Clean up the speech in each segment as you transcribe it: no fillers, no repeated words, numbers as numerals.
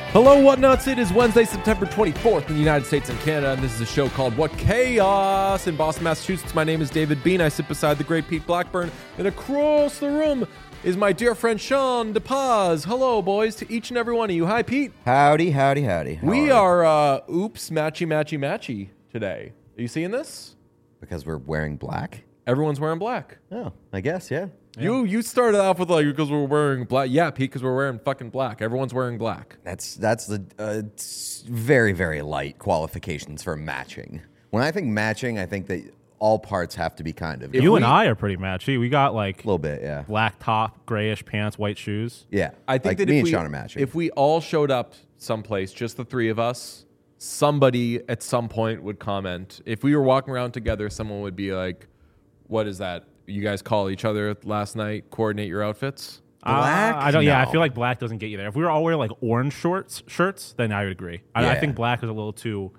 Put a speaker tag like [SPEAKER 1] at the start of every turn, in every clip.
[SPEAKER 1] Hello, Whatnots. It is Wednesday, September 24th in the United States and Canada, and this is a show called What Chaos in Boston, Massachusetts. My name is David Bean. I sit beside the great Pete Blackburn, and across the room is my dear friend Sean DePaz. Hello, boys, to each and every one of you. Hi, Pete.
[SPEAKER 2] Howdy, howdy, howdy.
[SPEAKER 1] We are, matchy today. Are you seeing this?
[SPEAKER 2] Because we're wearing black?
[SPEAKER 1] Everyone's wearing black.
[SPEAKER 2] Oh, I guess, yeah.
[SPEAKER 1] You started off with because we're wearing black. Yeah, Pete, because we're wearing fucking black. Everyone's wearing black.
[SPEAKER 2] That's the very, very light qualifications for matching. When I think matching, I think that all parts have to be kind of.
[SPEAKER 3] You and I are pretty matchy. We got like
[SPEAKER 2] a little bit, yeah.
[SPEAKER 3] Black top, grayish pants, white shoes.
[SPEAKER 2] Yeah,
[SPEAKER 1] I think that
[SPEAKER 2] me and Sean are matching.
[SPEAKER 1] If we all showed up someplace, just the three of us, somebody at some point would comment. If we were walking around together, someone would be like, "What is that? You guys call each other last night, coordinate your outfits?"
[SPEAKER 2] Black?
[SPEAKER 3] I don't. Yeah, I
[SPEAKER 2] No.
[SPEAKER 3] feel like black doesn't get you there. If we were all wearing like orange shirts, then I would agree. I
[SPEAKER 2] Yeah.
[SPEAKER 3] think black is a little too,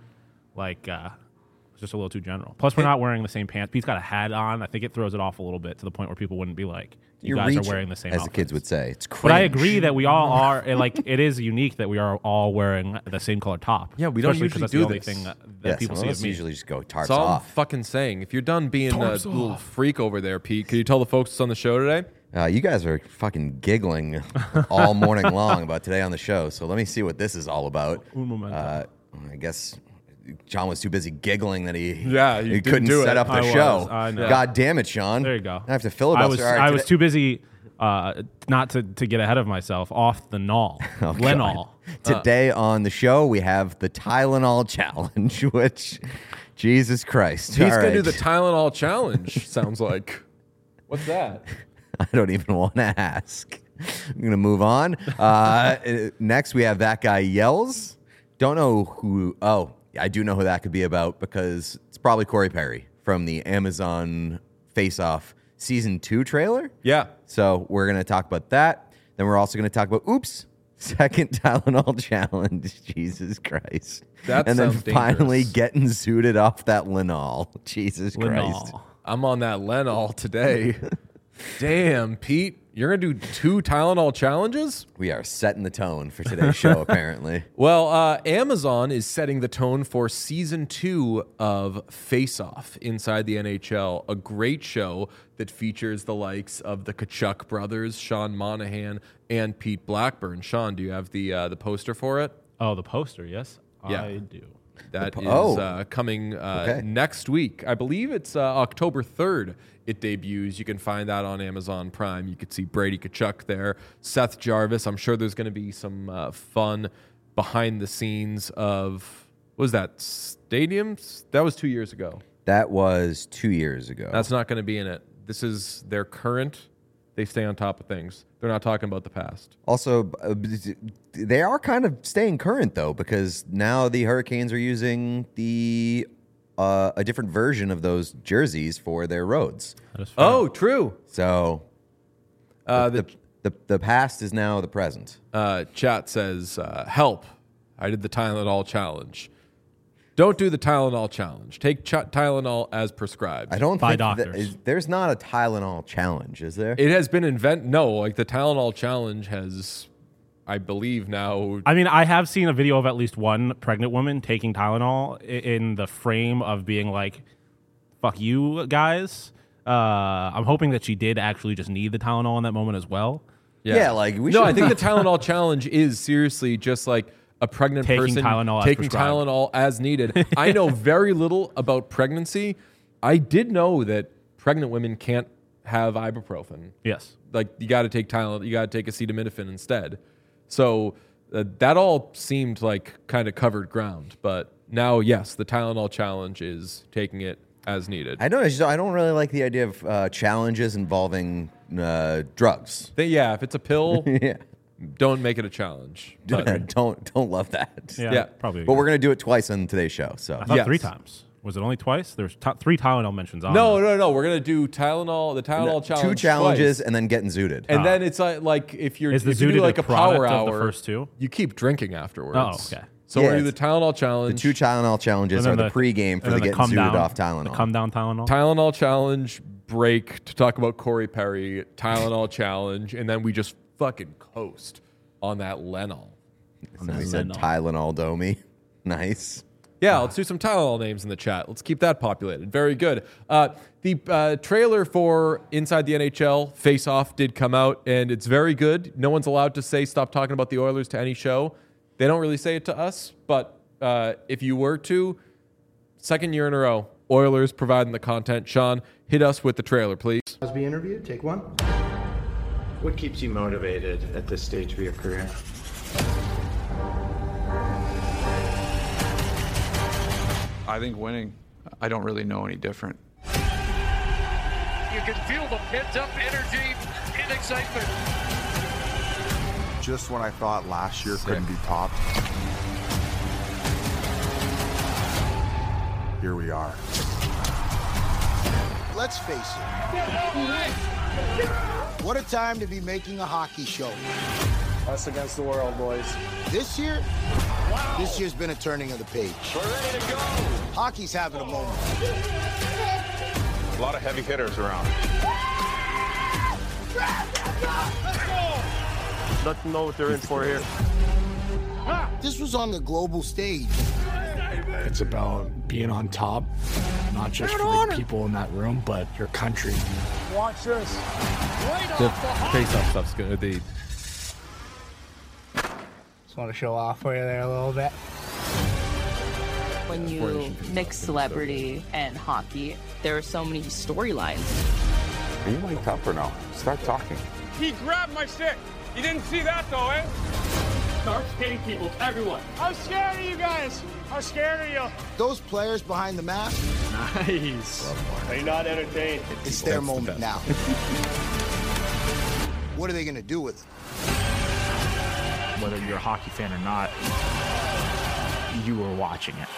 [SPEAKER 3] just a little too general. Plus, we're not wearing the same pants. Pete's got a hat on. I think it throws it off a little bit to the point where people wouldn't be like, "You guys
[SPEAKER 2] reaching,
[SPEAKER 3] are wearing the same."
[SPEAKER 2] as
[SPEAKER 3] outfits.
[SPEAKER 2] the kids would say. It's cringe.
[SPEAKER 3] But I agree that we all are. It is unique that we are all wearing the same color top.
[SPEAKER 1] Yeah, we don't
[SPEAKER 3] Especially 'cause
[SPEAKER 1] usually
[SPEAKER 3] that's
[SPEAKER 1] do
[SPEAKER 3] the only
[SPEAKER 1] this.
[SPEAKER 3] thing that
[SPEAKER 2] Yeah,
[SPEAKER 3] people
[SPEAKER 2] some
[SPEAKER 3] see
[SPEAKER 2] of
[SPEAKER 3] of
[SPEAKER 2] us
[SPEAKER 3] me.
[SPEAKER 2] usually just go tarps
[SPEAKER 1] That's all I'm
[SPEAKER 2] off.
[SPEAKER 1] fucking saying. If you're done being a little freak over there, Pete, could you tell the folks that's on the show today?
[SPEAKER 2] You guys are fucking giggling all morning long about today on the show, so let me see what this is all about.
[SPEAKER 3] Un momento.
[SPEAKER 2] I guess John was too busy giggling that he
[SPEAKER 1] didn't
[SPEAKER 2] couldn't
[SPEAKER 1] do
[SPEAKER 2] set
[SPEAKER 1] it.
[SPEAKER 2] up the
[SPEAKER 3] I was.
[SPEAKER 2] show.
[SPEAKER 3] I know.
[SPEAKER 2] God damn it, Sean.
[SPEAKER 3] There you go.
[SPEAKER 2] I have to filibuster.
[SPEAKER 3] I was too busy not to get ahead of myself off the Nol.
[SPEAKER 2] Oh,
[SPEAKER 3] Lenol.
[SPEAKER 2] Today on the show, we have the Tylenol Challenge, which, Jesus Christ.
[SPEAKER 1] He's
[SPEAKER 2] All
[SPEAKER 1] going to do
[SPEAKER 2] right.
[SPEAKER 1] the Tylenol Challenge, sounds like. What's that?
[SPEAKER 2] I don't even want to ask. I'm going to move on. Next, we have That Guy Yells. Don't know who. Oh, I do know who that could be about because it's probably Corey Perry from the Amazon Face Off Season 2 trailer.
[SPEAKER 1] Yeah.
[SPEAKER 2] So we're going to talk about that. Then we're also going to talk about, second Tylenol Challenge. Jesus Christ.
[SPEAKER 1] That
[SPEAKER 2] and then
[SPEAKER 1] sounds
[SPEAKER 2] finally
[SPEAKER 1] dangerous.
[SPEAKER 2] getting zooted off that Lenol. Jesus Christ.
[SPEAKER 3] Lenol.
[SPEAKER 1] I'm on that Lenol today. Damn, Pete. You're going to do 2 Tylenol challenges?
[SPEAKER 2] We are setting the tone for today's show, apparently.
[SPEAKER 1] Well, Amazon is setting the tone for season 2 of Face Off inside the NHL, a great show that features the likes of the Kachuk brothers, Sean Monahan, and Pete Blackburn. Sean, do you have the poster for it?
[SPEAKER 3] Oh, the poster, yes?
[SPEAKER 1] Yeah.
[SPEAKER 3] I do.
[SPEAKER 1] That is coming
[SPEAKER 2] Okay.
[SPEAKER 1] next week. I believe it's October 3rd. It debuts. You can find that on Amazon Prime. You could see Brady Kachuk there, Seth Jarvis. I'm sure there's going to be some fun behind the scenes of, what was that, stadiums? That was 2 years ago.
[SPEAKER 2] That was 2 years ago.
[SPEAKER 1] That's not going to be in it. This is their current. They stay on top of things. They're not talking about the past.
[SPEAKER 2] Also, they are kind of staying current, though, because now the Hurricanes are using a different version of those jerseys for their roads.
[SPEAKER 3] That is fair.
[SPEAKER 1] Oh, true.
[SPEAKER 2] So the past is now the present.
[SPEAKER 1] Chat says, help. I did the Tylenol challenge. Don't do the Tylenol challenge. Take Tylenol as prescribed.
[SPEAKER 2] I don't
[SPEAKER 3] By
[SPEAKER 2] think
[SPEAKER 3] doctors.
[SPEAKER 2] there's not a Tylenol challenge, is there?
[SPEAKER 1] It has been the Tylenol challenge has, I believe now.
[SPEAKER 3] I mean, I have seen a video of at least one pregnant woman taking Tylenol in the frame of being like, fuck you guys. I'm hoping that she did actually just need the Tylenol in that moment as well.
[SPEAKER 2] Yeah, like we
[SPEAKER 1] No,
[SPEAKER 2] should.
[SPEAKER 1] I think the Tylenol challenge is seriously just like a pregnant
[SPEAKER 3] Taking
[SPEAKER 1] person
[SPEAKER 3] Tylenol as
[SPEAKER 1] taking
[SPEAKER 3] prescribed.
[SPEAKER 1] Tylenol as needed. I know very little about pregnancy. I did know that pregnant women can't have ibuprofen.
[SPEAKER 3] Yes.
[SPEAKER 1] Like you got to take Tylenol, you got to take acetaminophen instead. So that all seemed like kind of covered ground. But now, yes, the Tylenol challenge is taking it as needed.
[SPEAKER 2] I don't really like the idea of challenges involving drugs.
[SPEAKER 1] Yeah, if it's a pill,
[SPEAKER 2] Yeah,
[SPEAKER 1] don't make it a challenge. But,
[SPEAKER 2] don't love that.
[SPEAKER 1] Yeah.
[SPEAKER 3] Probably.
[SPEAKER 2] But we're gonna do it twice on today's show. So
[SPEAKER 3] I thought
[SPEAKER 1] Yes.
[SPEAKER 3] 3 times. Was it only twice? There's 3 Tylenol mentions on
[SPEAKER 1] no,
[SPEAKER 3] there.
[SPEAKER 1] We're gonna do the Tylenol challenge.
[SPEAKER 2] 2 challenges
[SPEAKER 1] twice.
[SPEAKER 2] and then getting zooted.
[SPEAKER 1] And then it's like if
[SPEAKER 3] Is the
[SPEAKER 1] if you do
[SPEAKER 3] zooted
[SPEAKER 1] like
[SPEAKER 3] a
[SPEAKER 1] a power
[SPEAKER 3] product of
[SPEAKER 1] hour,
[SPEAKER 3] the first 2?
[SPEAKER 1] you keep drinking afterwards.
[SPEAKER 3] Oh, okay.
[SPEAKER 1] So
[SPEAKER 2] Yeah,
[SPEAKER 1] we're gonna do
[SPEAKER 2] it's
[SPEAKER 1] the Tylenol
[SPEAKER 2] the
[SPEAKER 1] challenge.
[SPEAKER 2] 2 Tylenol challenges are
[SPEAKER 3] And then
[SPEAKER 2] the pregame for
[SPEAKER 3] and
[SPEAKER 2] the
[SPEAKER 3] then
[SPEAKER 2] getting
[SPEAKER 3] come
[SPEAKER 2] zooted
[SPEAKER 3] down,
[SPEAKER 2] off Tylenol.
[SPEAKER 3] The come down Tylenol.
[SPEAKER 1] Tylenol challenge break to talk about Corey Perry. Tylenol challenge, and then we just fucking coast on that Lenol.
[SPEAKER 2] Somebody said Tylenol Domi. Nice.
[SPEAKER 1] Yeah, let's do some Tylenol names in the chat. Let's keep that populated. Very good. The trailer for Inside the NHL Face Off did come out, and it's very good. No one's allowed to say stop talking about the Oilers to any show. They don't really say it to us, but if you were to, second year in a row, Oilers providing the content. Sean, hit us with the trailer, please.
[SPEAKER 4] Be interviewed. Take one.
[SPEAKER 5] What keeps you motivated at this stage of your career?
[SPEAKER 6] I think winning. I don't really know any different.
[SPEAKER 7] You can feel the pent-up energy and excitement.
[SPEAKER 8] Just when I thought last year couldn't be topped, here we are.
[SPEAKER 9] Let's face it. What a time to be making a hockey show.
[SPEAKER 10] Us against the world, boys.
[SPEAKER 9] This year, this year's been a turning of the page.
[SPEAKER 7] We're ready to go.
[SPEAKER 9] Hockey's having a moment.
[SPEAKER 10] A lot of heavy hitters around.
[SPEAKER 7] Let's know what they're in for here.
[SPEAKER 9] This was on the global stage.
[SPEAKER 11] It's about being on top, not just for the people in that room, but your country.
[SPEAKER 7] Watch this. Right
[SPEAKER 1] The
[SPEAKER 7] off the hop.
[SPEAKER 1] Face Off stuff's good.
[SPEAKER 11] Just want to show off for you there a little bit.
[SPEAKER 12] When you mix celebrity and hockey, there are so many storylines.
[SPEAKER 8] Are you mic'd up or no? Start talking.
[SPEAKER 7] He grabbed my stick. You didn't see that though, eh? Start skating people, everyone. I'm scared of you guys. I'm scared of you.
[SPEAKER 9] Those players behind the mask,
[SPEAKER 7] Nice. Are you not entertained?
[SPEAKER 9] it's their moment now. What are they going to do with it?
[SPEAKER 11] Whether you're a hockey fan or not, you were watching it.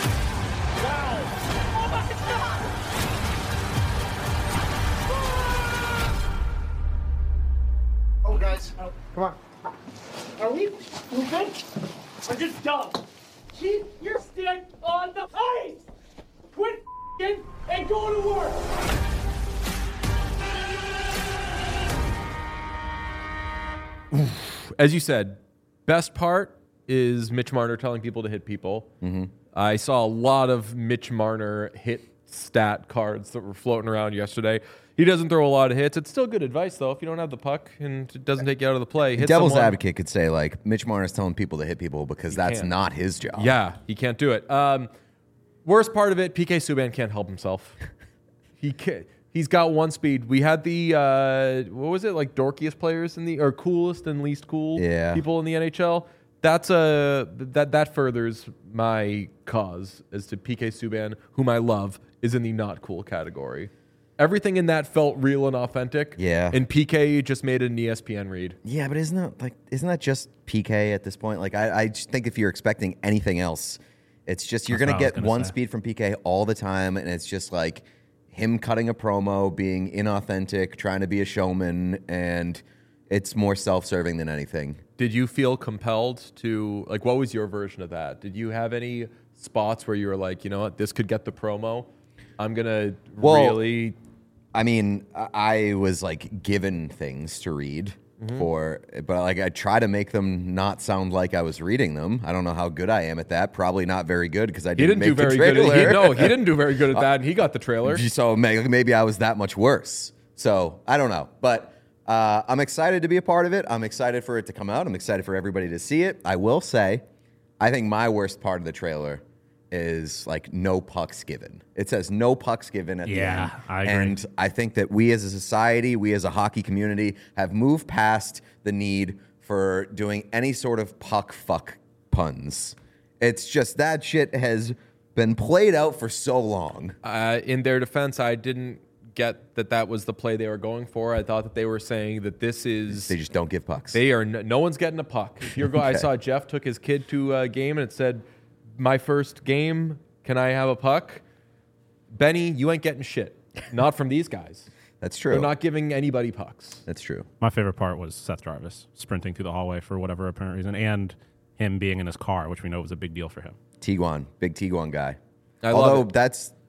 [SPEAKER 7] Oh, guys. Come on. Are we good? Or just dumb? Keep your stick on the ice! Quit f***ing and go to work!
[SPEAKER 1] As you said, best part is Mitch Marner telling people to hit people.
[SPEAKER 2] Mm-hmm.
[SPEAKER 1] I saw a lot of Mitch Marner hit stat cards that were floating around yesterday. He doesn't throw a lot of hits. It's still good advice, though. If you don't have the puck and it doesn't take you out of the play, hit
[SPEAKER 2] Devil's
[SPEAKER 1] someone.
[SPEAKER 2] advocate could say, like, Mitch Marner's telling people to hit people because that's
[SPEAKER 1] can't.
[SPEAKER 2] not his job.
[SPEAKER 1] Yeah, he can't do it. Worst part of it, PK Subban can't help himself. He's got one speed. We had the what was it, like dorkiest players in the, or coolest and least cool people in the NHL. That furthers my cause as to PK Subban, whom I love, is in the not cool category. Everything in that felt real and authentic.
[SPEAKER 2] Yeah.
[SPEAKER 1] And PK just made an ESPN read.
[SPEAKER 2] Yeah, but isn't that just PK at this point? Like, I just think if you're expecting anything else, it's just you're going to get one speed from PK all the time, and it's just like him cutting a promo, being inauthentic, trying to be a showman, and it's more self-serving than anything.
[SPEAKER 1] Did you feel compelled to, like, what was your version of that? Did you have any spots where you were like, you know what, this could get the promo? I'm going to really...
[SPEAKER 2] I mean, I was like given things to read but like I try to make them not sound like I was reading them. I don't know how good I am at that. Probably not very good because I didn't make the trailer.
[SPEAKER 1] He didn't do very good at that, and he got the trailer.
[SPEAKER 2] So maybe I was that much worse. So I don't know, but I'm excited to be a part of it. I'm excited for it to come out. I'm excited for everybody to see it. I will say, I think my worst part of the trailer is like no pucks given. It says no pucks given at the end.
[SPEAKER 3] I agree.
[SPEAKER 2] And I think that we as a society, we as a hockey community have moved past the need for doing any sort of puck fuck puns. It's just that shit has been played out for so long.
[SPEAKER 1] In their defense, I didn't get that was the play they were going for. I thought that they were saying that this is...
[SPEAKER 2] They just don't give pucks.
[SPEAKER 1] They are no one's getting a puck. If you're I saw Jeff took his kid to a game and it said, my first game, can I have a puck? Benny, you ain't getting shit. Not from these guys.
[SPEAKER 2] That's true.
[SPEAKER 1] They're not giving anybody pucks.
[SPEAKER 2] That's true.
[SPEAKER 3] My favorite part was Seth Jarvis sprinting through the hallway for whatever apparent reason, and him being in his car, which we know was a big deal for him.
[SPEAKER 2] Tiguan, big Tiguan guy.
[SPEAKER 1] I love
[SPEAKER 2] Although
[SPEAKER 1] it.
[SPEAKER 2] that's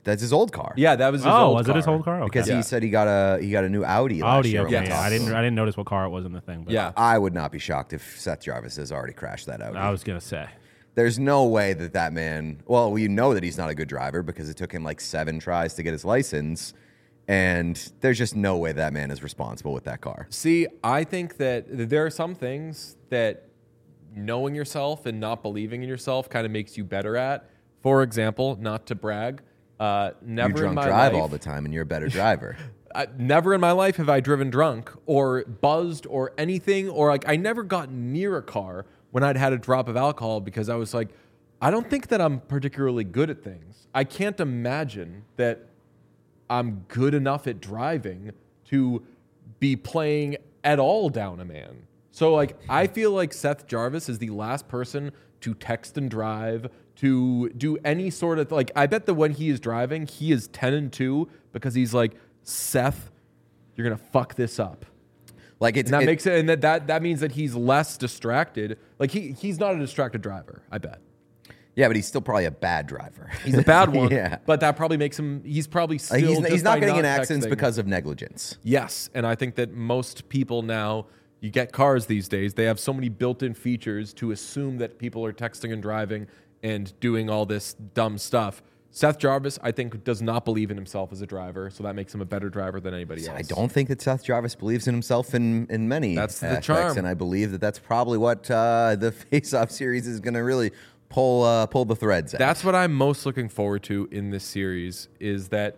[SPEAKER 2] That's his old car.
[SPEAKER 1] Yeah, that was his old
[SPEAKER 3] was
[SPEAKER 1] car.
[SPEAKER 3] it his old car? Okay.
[SPEAKER 2] Because he said he got a new Audi. Last year
[SPEAKER 3] Okay.
[SPEAKER 2] when we
[SPEAKER 3] Yeah,
[SPEAKER 2] talked.
[SPEAKER 3] I didn't notice what car it was in the thing. But
[SPEAKER 1] Yeah.
[SPEAKER 2] I would not be shocked if Seth Jarvis has already crashed that Audi.
[SPEAKER 3] I was gonna say.
[SPEAKER 2] There's no way that man. Well, we know that he's not a good driver because it took him like 7 tries to get his license, and there's just no way that man is responsible with that car.
[SPEAKER 1] See, I think that there are some things that knowing yourself and not believing in yourself kind of makes you better at. For example, not to brag, never
[SPEAKER 2] You
[SPEAKER 1] in
[SPEAKER 2] drunk
[SPEAKER 1] my
[SPEAKER 2] drive
[SPEAKER 1] life,
[SPEAKER 2] all the time, and you're a better driver.
[SPEAKER 1] never in my life have I driven drunk or buzzed or anything, or like I never got near a car when I'd had a drop of alcohol because I was like, I don't think that I'm particularly good at things. I can't imagine that I'm good enough at driving to be playing at all down a man. So like, I feel like Seth Jarvis is the last person to text and drive, to do any sort of like, I bet that when he is driving, he is 10-2 because he's like, Seth, you're going to fuck this up.
[SPEAKER 2] Like
[SPEAKER 1] And that makes it, and that means that he's less distracted. Like he's not a distracted driver, I bet.
[SPEAKER 2] Yeah, but he's still probably a bad driver.
[SPEAKER 1] He's a bad one.
[SPEAKER 2] Yeah.
[SPEAKER 1] But that probably makes him, he's probably still
[SPEAKER 2] he's not getting in accidents
[SPEAKER 1] texting.
[SPEAKER 2] because of negligence.
[SPEAKER 1] Yes, and I think that most people now, you get cars these days, they have so many built-in features to assume that people are texting and driving and doing all this dumb stuff. Seth Jarvis, I think, does not believe in himself as a driver, so that makes him a better driver than anybody else.
[SPEAKER 2] I don't think that Seth Jarvis believes in himself in many
[SPEAKER 1] That's the
[SPEAKER 2] aspects,
[SPEAKER 1] charm.
[SPEAKER 2] and I believe that that's probably what the Face-Off series is going to really pull the threads out.
[SPEAKER 1] That's what I'm most looking forward to in this series, is that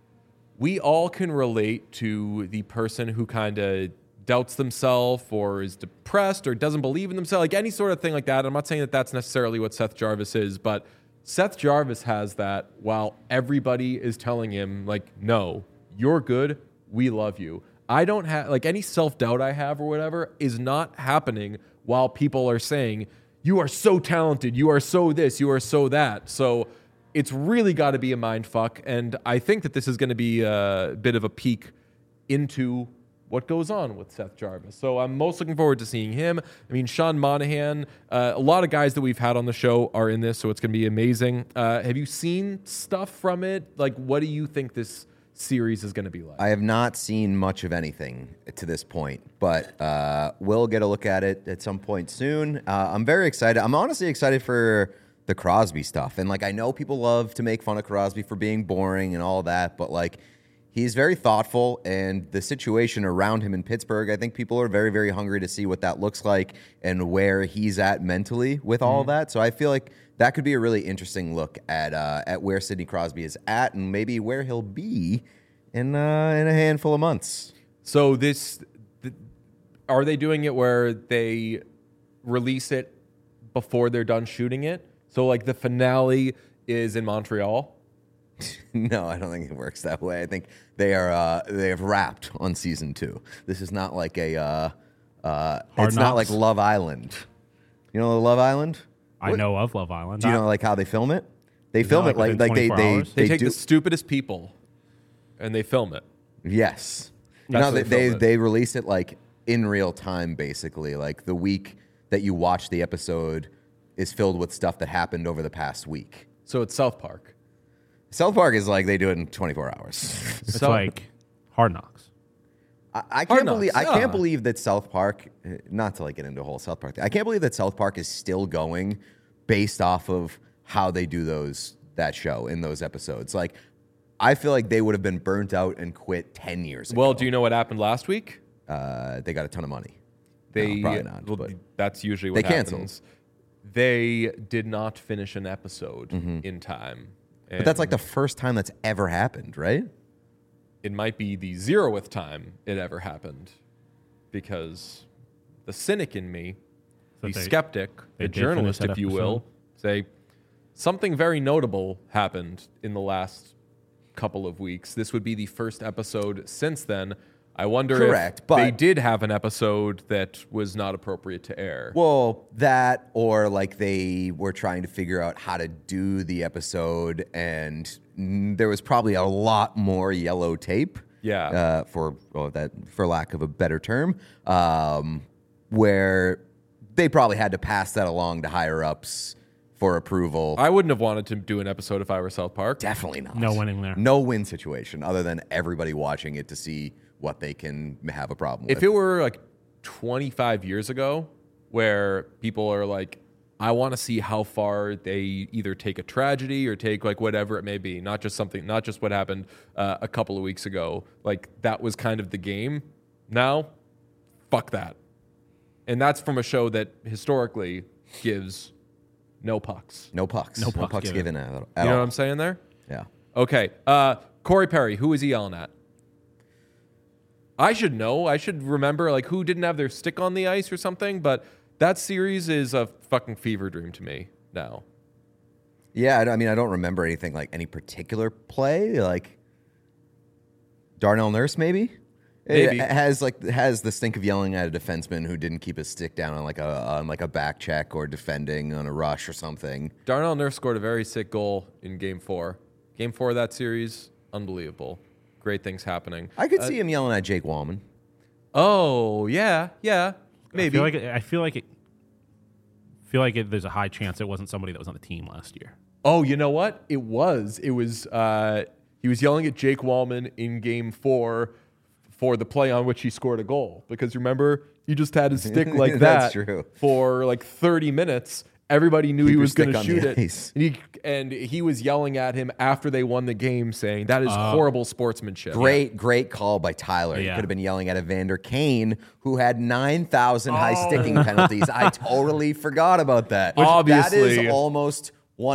[SPEAKER 1] we all can relate to the person who kind of doubts themselves or is depressed or doesn't believe in themselves, like any sort of thing like that. I'm not saying that that's necessarily what Seth Jarvis is, but Seth Jarvis has that while everybody is telling him, like, no, you're good, we love you. I don't have, like, any self-doubt I have or whatever is not happening while people are saying, you are so talented, you are so this, you are so that. So it's really got to be a mind fuck, and I think that this is going to be a bit of a peek into what goes on with Seth Jarvis. So I'm most looking forward to seeing him. I mean, Sean Monahan, a lot of guys that we've had on the show are in this, so it's going to be amazing. Have you seen stuff from it? Like, what do you think this series is going to be like?
[SPEAKER 2] I have not seen much of anything to this point, but we'll get a look at it at some point soon. I'm very excited. I'm honestly excited for the Crosby stuff. And, like, I know people love to make fun of Crosby for being boring and all that, but, like, he's very thoughtful, and the situation around him in Pittsburgh, I think people are very, very hungry to see what that looks like and where he's at mentally with all that. So I feel like that could be a really interesting look at where Sidney Crosby is at and maybe where he'll be in a handful of months.
[SPEAKER 1] So are they doing it where they release it before they're done shooting it? So, like, the finale is in Montreal?
[SPEAKER 2] No, I don't think it works that way. I think they have wrapped on season 2. This is not like it's not like Love Island. You know Love Island?
[SPEAKER 3] I know of Love Island.
[SPEAKER 2] Do you know like how they film it? They film it like
[SPEAKER 3] within
[SPEAKER 2] they
[SPEAKER 3] 24 hours?
[SPEAKER 1] They take the stupidest people and they film it.
[SPEAKER 2] Yes.
[SPEAKER 1] That's
[SPEAKER 2] No,
[SPEAKER 1] how they film it.
[SPEAKER 2] they release it like in real time, basically. Like the week that you watch the episode is filled with stuff that happened over the past week.
[SPEAKER 1] So it's South Park.
[SPEAKER 2] South Park is like they do it in 24 hours.
[SPEAKER 3] It's like Hard Knocks.
[SPEAKER 2] I can't believe that South Park, not to like get into a whole South Park thing, I can't believe that South Park is still going based off of how they do that show in those episodes. Like, I feel like they would have been burnt out and quit 10 years ago.
[SPEAKER 1] Well, do you know what happened last week?
[SPEAKER 2] They got a ton of money.
[SPEAKER 1] They
[SPEAKER 2] No, probably not.
[SPEAKER 1] Well,
[SPEAKER 2] but
[SPEAKER 1] that's usually what
[SPEAKER 2] they canceled.
[SPEAKER 1] happens. They did not finish an episode in time.
[SPEAKER 2] But that's like the first time that's ever happened, right?
[SPEAKER 1] It might be the 0th time it ever happened, because the cynic in me, the skeptic, the journalist, if you will, say something very notable happened in the last couple of weeks. This would be the first episode since then. I wonder if they did have an episode that was not appropriate to air.
[SPEAKER 2] Well, that, or like they were trying to figure out how to do the episode, and there was probably a lot more yellow tape.
[SPEAKER 1] Yeah.
[SPEAKER 2] For lack of a better term, where they probably had to pass that along to higher ups for approval.
[SPEAKER 1] I wouldn't have wanted to do an episode if I were South Park.
[SPEAKER 2] Definitely not.
[SPEAKER 3] No winning there.
[SPEAKER 2] No win situation other than everybody watching it to see what they can have a problem with.
[SPEAKER 1] If it were like 25 years ago, where people are like, I want to see how far they either take a tragedy or take like whatever it may be, not just what happened a couple of weeks ago. Like that was kind of the game. Now, fuck that. And that's from a show that historically gives no pucks.
[SPEAKER 2] No pucks.
[SPEAKER 3] No pucks
[SPEAKER 2] given at all.
[SPEAKER 1] You know what I'm saying there?
[SPEAKER 2] Yeah.
[SPEAKER 1] Okay. Corey Perry, who is he yelling at? I should know. I should remember like who didn't have their stick on the ice or something, but that series is a fucking fever dream to me now.
[SPEAKER 2] Yeah, I mean, I don't remember anything like any particular play, like Darnell Nurse, maybe.
[SPEAKER 1] Maybe.
[SPEAKER 2] It has the stink of yelling at a defenseman who didn't keep his stick down on like a back check or defending on a rush or something.
[SPEAKER 1] Darnell Nurse scored a very sick goal in Game 4. Game 4 of that series, unbelievable. Great things happening.
[SPEAKER 2] I could see him yelling at Jake Wallman.
[SPEAKER 1] Oh yeah, maybe.
[SPEAKER 3] I feel like there's a high chance it wasn't somebody that was on the team last year.
[SPEAKER 1] Oh, you know what? It was. He was yelling at Jake Wallman in Game 4 for the play on which he scored a goal. Because remember, he just had his stick like that
[SPEAKER 2] That's true.
[SPEAKER 1] for like 30 minutes. Everybody knew he was going to shoot it.
[SPEAKER 2] Ice.
[SPEAKER 1] And he was yelling at him after they won the game saying, that is horrible sportsmanship.
[SPEAKER 2] Great call by Tyler. He
[SPEAKER 3] Yeah.
[SPEAKER 2] could have been yelling at Evander Kane, who had 9,000 high sticking penalties. I totally forgot about that.
[SPEAKER 1] Obviously.
[SPEAKER 2] That is almost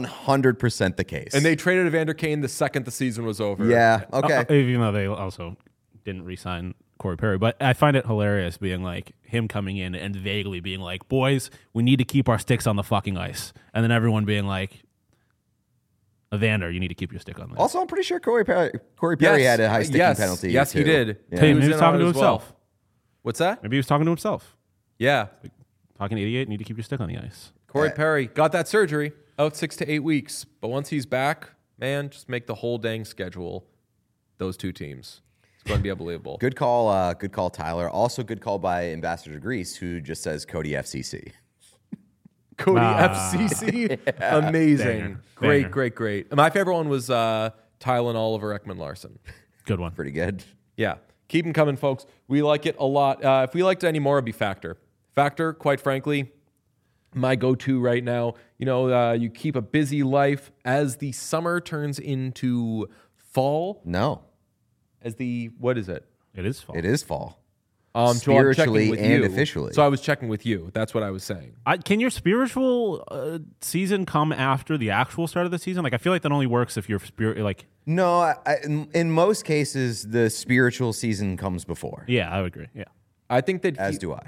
[SPEAKER 2] 100% the case.
[SPEAKER 1] And they traded Evander Kane the second the season was over.
[SPEAKER 2] Yeah, okay.
[SPEAKER 3] Even though they also didn't re-sign Corey Perry. But I find it hilarious being like him coming in and vaguely being like, boys, we need to keep our sticks on the fucking ice. And then everyone being like, Evander, you need to keep your stick on the ice.
[SPEAKER 2] Also, I'm pretty sure Corey Perry had a high sticking penalty.
[SPEAKER 1] Yes, he did.
[SPEAKER 2] Yeah.
[SPEAKER 3] Maybe he
[SPEAKER 1] in
[SPEAKER 3] was talking
[SPEAKER 1] on
[SPEAKER 3] to
[SPEAKER 1] it as
[SPEAKER 3] himself.
[SPEAKER 1] well. What's that?
[SPEAKER 3] Maybe he was talking to himself.
[SPEAKER 1] Yeah.
[SPEAKER 3] Talking 88, need to keep your stick on the ice.
[SPEAKER 1] Corey Perry got that surgery, out 6 to 8 weeks. But once he's back, man, just make the whole dang schedule those two teams. It's going to be unbelievable.
[SPEAKER 2] Good call, Tyler. Also, good call by Ambassador Grease, who just says Cody FCC.
[SPEAKER 1] Cody FCC, amazing,
[SPEAKER 3] Banger.
[SPEAKER 1] great. My favorite one was Tylen Oliver Ekman Larson.
[SPEAKER 3] Good one.
[SPEAKER 2] Pretty good.
[SPEAKER 1] Yeah, keep them coming, folks. We like it a lot. If we liked it any more, it'd be Factor. Factor, quite frankly, my go-to right now. You know, you keep a busy life as the summer turns into fall.
[SPEAKER 2] No.
[SPEAKER 1] What is it?
[SPEAKER 3] It is fall.
[SPEAKER 2] It is fall.
[SPEAKER 1] So I'm
[SPEAKER 2] Spiritually
[SPEAKER 1] checking with
[SPEAKER 2] and
[SPEAKER 1] you.
[SPEAKER 2] officially.
[SPEAKER 1] So I was checking with you. That's what I was saying.
[SPEAKER 3] Can your spiritual season come after the actual start of the season? Like, I feel like that only works if your spirit, like...
[SPEAKER 2] No, in most cases, the spiritual season comes before.
[SPEAKER 3] Yeah, I would agree. Yeah.
[SPEAKER 1] I think that...
[SPEAKER 2] As do I.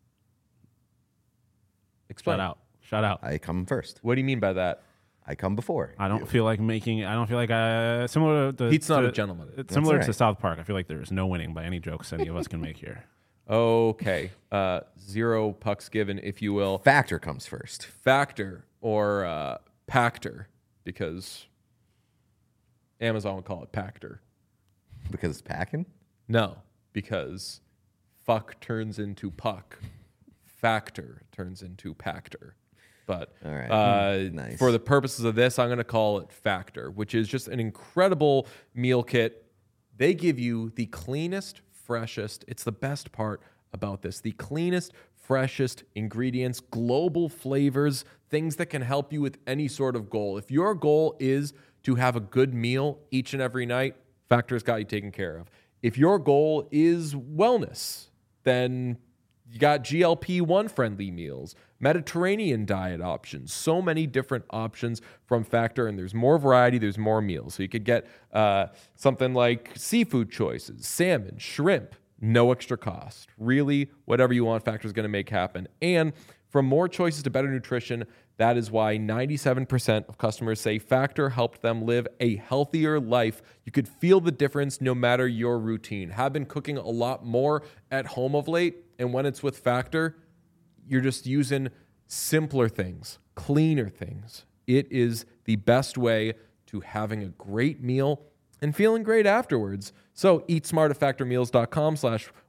[SPEAKER 1] Explain.
[SPEAKER 3] Shout out.
[SPEAKER 2] I come first.
[SPEAKER 1] What do you mean by that?
[SPEAKER 2] I come before.
[SPEAKER 3] I don't feel like similar to...
[SPEAKER 1] Pete's not a gentleman.
[SPEAKER 3] It's similar
[SPEAKER 2] right.
[SPEAKER 3] to South Park. I feel like there's no winning by any jokes any of us can make here.
[SPEAKER 1] Okay. 0 pucks given, if you will.
[SPEAKER 2] Factor comes first.
[SPEAKER 1] Factor or Pactor, because Amazon would call it Pactor.
[SPEAKER 2] Because it's packing?
[SPEAKER 1] No, because fuck turns into puck. Factor turns into Pactor. But
[SPEAKER 2] All right. Nice.
[SPEAKER 1] for the purposes of this, I'm going to call it Factor, which is just an incredible meal kit. They give you the cleanest, freshest. It's the best part about this. The cleanest, freshest ingredients, global flavors, things that can help you with any sort of goal. If your goal is to have a good meal each and every night, Factor's got you taken care of. If your goal is wellness, then you got GLP-1 friendly meals, Mediterranean diet options, so many different options from Factor, and there's more variety, there's more meals. So you could get something like seafood choices, salmon, shrimp, no extra cost. Really, whatever you want, Factor's going to make happen. And from more choices to better nutrition, that is why 97% of customers say Factor helped them live a healthier life. You could feel the difference no matter your routine. Have been cooking a lot more at home of late, and when it's with Factor, you're just using simpler things, cleaner things. It is the best way to having a great meal and feeling great afterwards. So eat smart at factormeals.com/wellness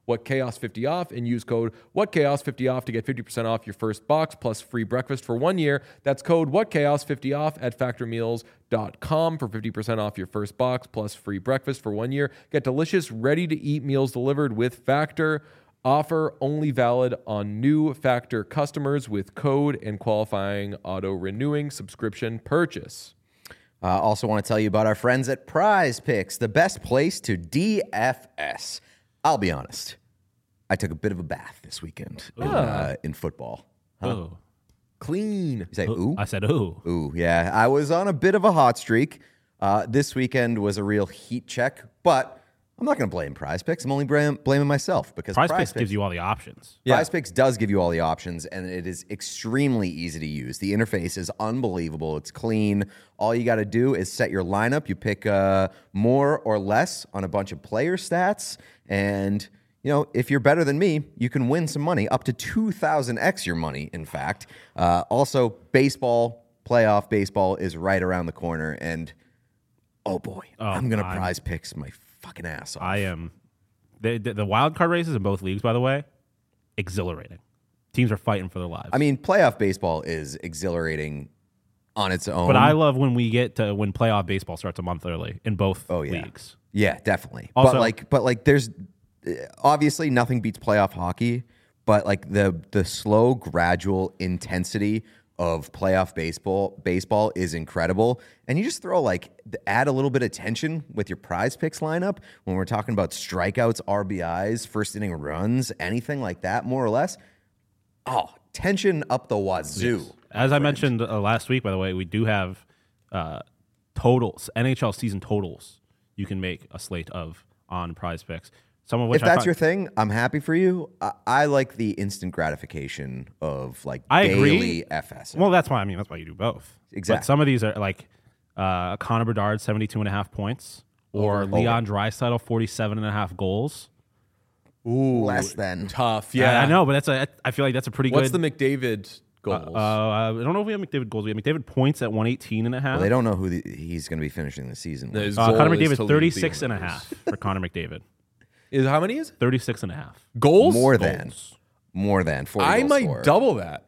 [SPEAKER 1] WhatChaos50off and use code WhatChaos50off to get 50% off your first box plus free breakfast for 1 year. That's code WhatChaos50off at factormeals.com for 50% off your first box plus free breakfast for 1 year. Get delicious, ready-to-eat meals delivered with Factor. Offer only valid on new Factor customers with code and qualifying auto-renewing subscription purchase.
[SPEAKER 2] Also want to tell you about our friends at Prize Picks, the best place to DFS. I'll be honest. I took a bit of a bath this weekend in football.
[SPEAKER 3] Oh.
[SPEAKER 1] Clean.
[SPEAKER 2] You say ooh?
[SPEAKER 3] I said ooh.
[SPEAKER 2] Ooh, yeah. I was on a bit of a hot streak. This weekend was a real heat check, but I'm not going to blame Prize Picks. I'm only blaming myself because
[SPEAKER 3] Prize Picks gives you all the options.
[SPEAKER 2] Prize Picks does give you all the options, and it is extremely easy to use. The interface is unbelievable. It's clean. All you got to do is set your lineup. You pick more or less on a bunch of player stats, and if you're better than me, you can win some money, up to 2,000x your money, in fact. Also, baseball, playoff baseball is right around the corner, and oh boy, I'm going to Prize Picks my fucking ass off.
[SPEAKER 3] I am. The wild card races in both leagues, by the way, exhilarating. Teams are fighting for their lives.
[SPEAKER 2] I mean, playoff baseball is exhilarating on its own.
[SPEAKER 3] But I love when playoff baseball starts a month early in both leagues.
[SPEAKER 2] Yeah, definitely.
[SPEAKER 3] Also,
[SPEAKER 2] but there's obviously nothing beats playoff hockey, but like the slow, gradual intensity of playoff baseball is incredible. And you just throw add a little bit of tension with your Prize Picks lineup when we're talking about strikeouts, RBIs, first inning runs, anything like that, more or less. Oh, tension up the wazoo.
[SPEAKER 3] Yes. As I mentioned last week, by the way, we do have totals, NHL season totals you can make a slate of on Prize Picks. Some of which
[SPEAKER 2] if that's your thing, I'm happy for you. I like the instant gratification of daily FS.
[SPEAKER 3] Well, that's why you do both.
[SPEAKER 2] Exactly.
[SPEAKER 3] But some of these are like Connor Bedard, 72.5 points, or Leon Draisaitl, 47.5 goals.
[SPEAKER 2] Ooh, less than
[SPEAKER 1] tough. Yeah,
[SPEAKER 3] I know, but I feel like that's a pretty good.
[SPEAKER 1] What's the McDavid goals?
[SPEAKER 3] I don't know if we have McDavid goals. We have McDavid points at 118.5.
[SPEAKER 2] Well, they don't know who he's going to be finishing the season with.
[SPEAKER 3] Connor McDavid, 36.5 for Connor McDavid.
[SPEAKER 1] How many is it?
[SPEAKER 3] 36.5
[SPEAKER 1] goals?
[SPEAKER 2] More than 40
[SPEAKER 1] I might
[SPEAKER 2] scorer.
[SPEAKER 1] double that.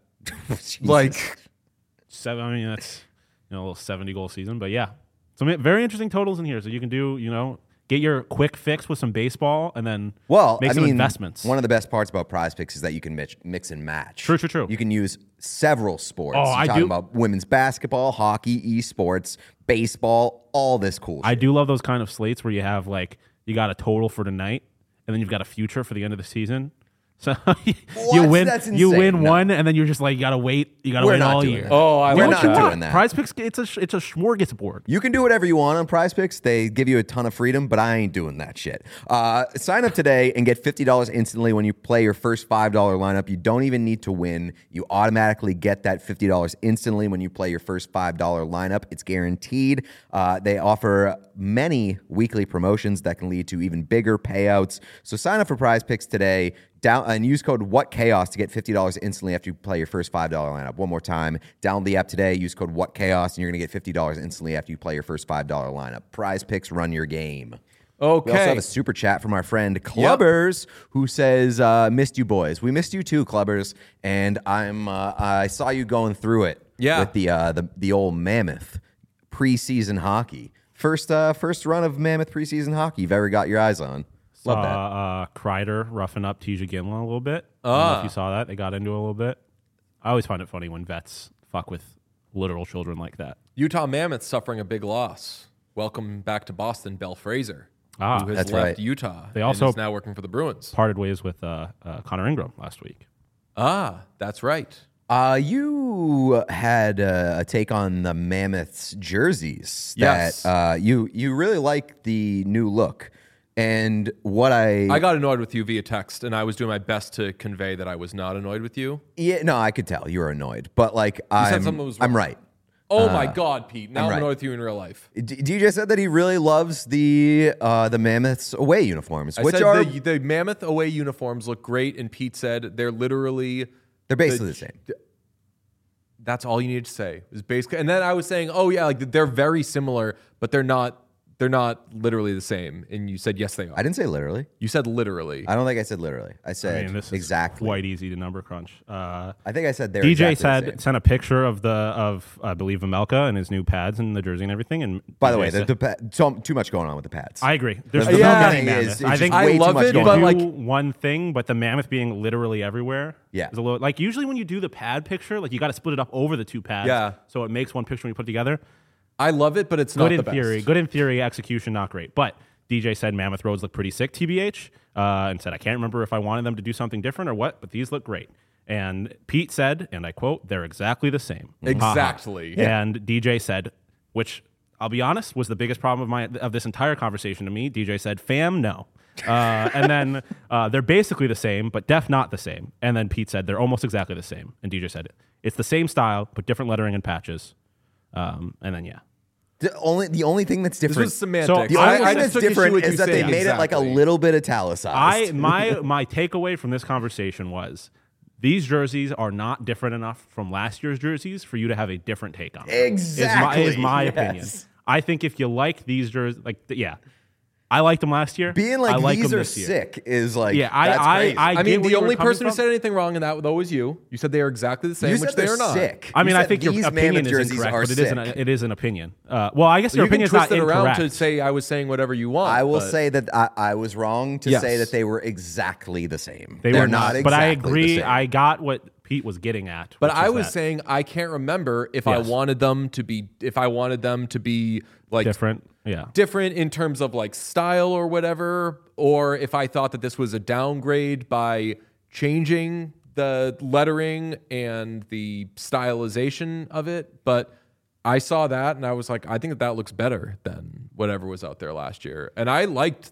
[SPEAKER 3] Seven. I mean, that's a little 70 goal season, but yeah, some very interesting totals in here. So you can do get your quick fix with some baseball and then make some investments.
[SPEAKER 2] One of the best parts about Prize Picks is that you can mix and match.
[SPEAKER 3] True.
[SPEAKER 2] You can use several sports.
[SPEAKER 3] You're
[SPEAKER 2] talking about women's basketball, hockey, esports, baseball, all this cool shit.
[SPEAKER 3] I do love those kind of slates where you have you got a total for tonight and then you've got a future for the end of the season. So you win one, and then you're just you gotta wait. You gotta wait all year.
[SPEAKER 2] We're not doing that.
[SPEAKER 3] Prize Picks, it's a smorgasbord.
[SPEAKER 2] You can do whatever you want on Prize Picks. They give you a ton of freedom, but I ain't doing that shit. Sign up today and get $50 instantly when you play your first $5 lineup. You don't even need to win. You automatically get that $50 instantly when you play your first $5 lineup. It's guaranteed. They offer many weekly promotions that can lead to even bigger payouts. So sign up for Prize Picks today. And use code WhatChaos to get $50 instantly after you play your first $5 lineup. One more time, download the app today, use code WhatChaos, and you're going to get $50 instantly after you play your first $5 lineup. Prize Picks, run your game.
[SPEAKER 1] Okay.
[SPEAKER 2] We also have a super chat from our friend Clubbers, who says, missed you boys. We missed you too, Clubbers, and I saw you going through it with the old Mammoth preseason hockey. First run of Mammoth preseason hockey you've ever got your eyes on. Love that.
[SPEAKER 3] Kreider roughing up TJ Ginla a little bit. I don't know if you saw that. They got into it a little bit. I always find it funny when vets fuck with literal children like that.
[SPEAKER 1] Utah Mammoth suffering a big loss. Welcome back to Boston, Bell Fraser, who has left Utah.
[SPEAKER 3] They also
[SPEAKER 1] is now working for the Bruins.
[SPEAKER 3] Parted ways with Connor Ingram last week.
[SPEAKER 1] That's right.
[SPEAKER 2] You had a take on the Mammoth's jerseys.
[SPEAKER 1] Yes.
[SPEAKER 2] That, you really like the new look. And what I
[SPEAKER 1] got annoyed with you via text, and I was doing my best to convey that I was not annoyed with you.
[SPEAKER 2] Yeah, no, I could tell you were annoyed, but I'm right.
[SPEAKER 1] Oh my God, Pete! Now I'm annoyed with you in real life.
[SPEAKER 2] DJ said that he really loves the Mammoth's away uniforms,
[SPEAKER 1] the Mammoth away uniforms look great, and Pete said they're basically
[SPEAKER 2] the same.
[SPEAKER 1] That's all you needed to say. Is basically, and then I was saying, they're very similar, but they're not they're not literally the same. And you said, yes, they are.
[SPEAKER 2] I didn't say literally.
[SPEAKER 1] You said literally.
[SPEAKER 2] I don't think I said literally. I said
[SPEAKER 3] this is
[SPEAKER 2] exactly.
[SPEAKER 3] quite easy to number crunch.
[SPEAKER 2] I think I said they're
[SPEAKER 3] DJ
[SPEAKER 2] exactly the same.
[SPEAKER 3] sent a picture of I believe Vemelka and his new pads and the jersey and everything. And
[SPEAKER 2] by the way, too much going on with the pads.
[SPEAKER 3] I agree. There's
[SPEAKER 2] I think
[SPEAKER 3] I
[SPEAKER 1] love it, but like
[SPEAKER 3] one thing, but the mammoth being literally everywhere.
[SPEAKER 2] Yeah,
[SPEAKER 3] is a little, like usually when you do the pad picture, like you got to split it up over the two pads.
[SPEAKER 1] Yeah,
[SPEAKER 3] so it makes one picture when you put it together.
[SPEAKER 1] I love it, but it's not the best.
[SPEAKER 3] Good in theory, execution not great. But DJ said Mammoth Roads look pretty sick, TBH, and said I can't remember if I wanted them to do something different or what, but these look great. And Pete said, and I quote, they're exactly the same.
[SPEAKER 1] Exactly.
[SPEAKER 3] Yeah. And DJ said, which I'll be honest was the biggest problem of this entire conversation to me. DJ said, fam, no. And then they're basically the same, but def not the same. And then Pete said they're almost exactly the same. And DJ said it's the same style, but different lettering and patches. And then
[SPEAKER 2] the only thing that's different.
[SPEAKER 1] This was semantics.
[SPEAKER 2] So the only thing that's different is that they made it like a little bit italicized.
[SPEAKER 3] My takeaway from this conversation was these jerseys are not different enough from last year's jerseys for you to have a different take on them.
[SPEAKER 2] Exactly.
[SPEAKER 3] Is my opinion. I think if you like these jerseys, I liked them last year.
[SPEAKER 2] Being like these are sick is like that's crazy.
[SPEAKER 1] I mean, the only person who said anything wrong in that though was you. You said they are exactly the same, which they are not.
[SPEAKER 2] Sick.
[SPEAKER 3] I mean, I think your opinion is incorrect, but it is an opinion. Well, I guess your opinion is not incorrect.
[SPEAKER 1] Around to say I was saying whatever you want.
[SPEAKER 2] I will say that I was wrong to say that they were exactly the same.
[SPEAKER 3] They're
[SPEAKER 2] not exactly
[SPEAKER 3] but I agree.
[SPEAKER 2] the same.
[SPEAKER 3] I got what Pete was getting at.
[SPEAKER 1] But I was saying I can't remember if I wanted them to be like
[SPEAKER 3] different. Yeah.
[SPEAKER 1] Different in terms of like style or whatever, or if I thought that this was a downgrade by changing the lettering and the stylization of it. But I saw that and I was like, I think that looks better than whatever was out there last year. And I liked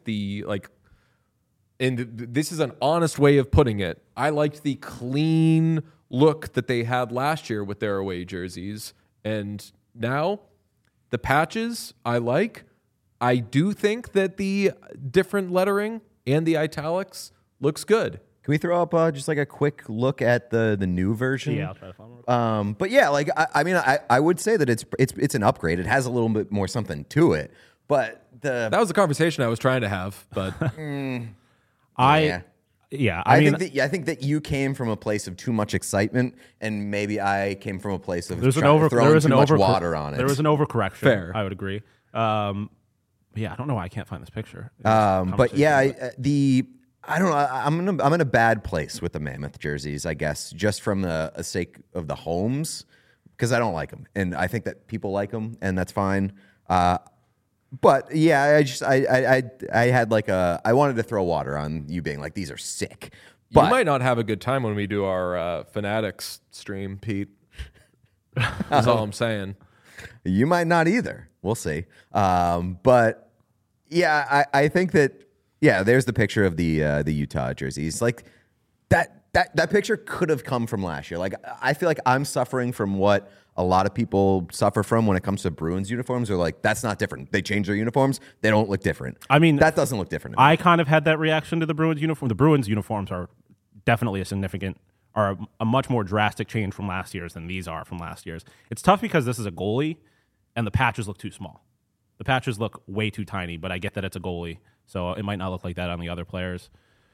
[SPEAKER 1] and this is an honest way of putting it, I liked the clean look that they had last year with their away jerseys. And now the patches I like. I do think that the different lettering and the italics looks good.
[SPEAKER 2] Can we throw up just like a quick look at the new version?
[SPEAKER 3] Yeah, I'll try to find one.
[SPEAKER 2] But yeah, like I would say that it's an upgrade. It has a little bit more something to it. But that
[SPEAKER 1] was the conversation I was trying to have. But
[SPEAKER 2] I think that you came from a place of too much excitement, and maybe I came from a place of throwing too much water on it.
[SPEAKER 3] There was an overcorrection.
[SPEAKER 1] Fair,
[SPEAKER 3] I would agree. Yeah, I don't know why I can't find this picture.
[SPEAKER 2] But yeah, I don't know. I'm in a bad place with the Mammoth jerseys, I guess, just from the sake of the homes, because I don't like them, and I think that people like them, and that's fine. But yeah, I had like I wanted to throw water on you being like, these are sick.
[SPEAKER 1] But you might not have a good time when we do our Fanatics stream, Pete. That's all I'm saying.
[SPEAKER 2] You might not either. We'll see. But yeah, I think that there's the picture of the Utah jerseys. Like that picture could have come from last year. Like I feel like I'm suffering from what a lot of people suffer from when it comes to Bruins uniforms. They're like, that's not different. They change their uniforms. They don't look different.
[SPEAKER 3] I mean,
[SPEAKER 2] that doesn't look different.
[SPEAKER 3] I kind of had that reaction to the Bruins uniform. The Bruins uniforms are definitely a much more drastic change from last year's than these are from last year's. It's tough because this is a goalie and the patches look too small. The patches look way too tiny, but I get that it's a goalie, so it might not look like that on the other players.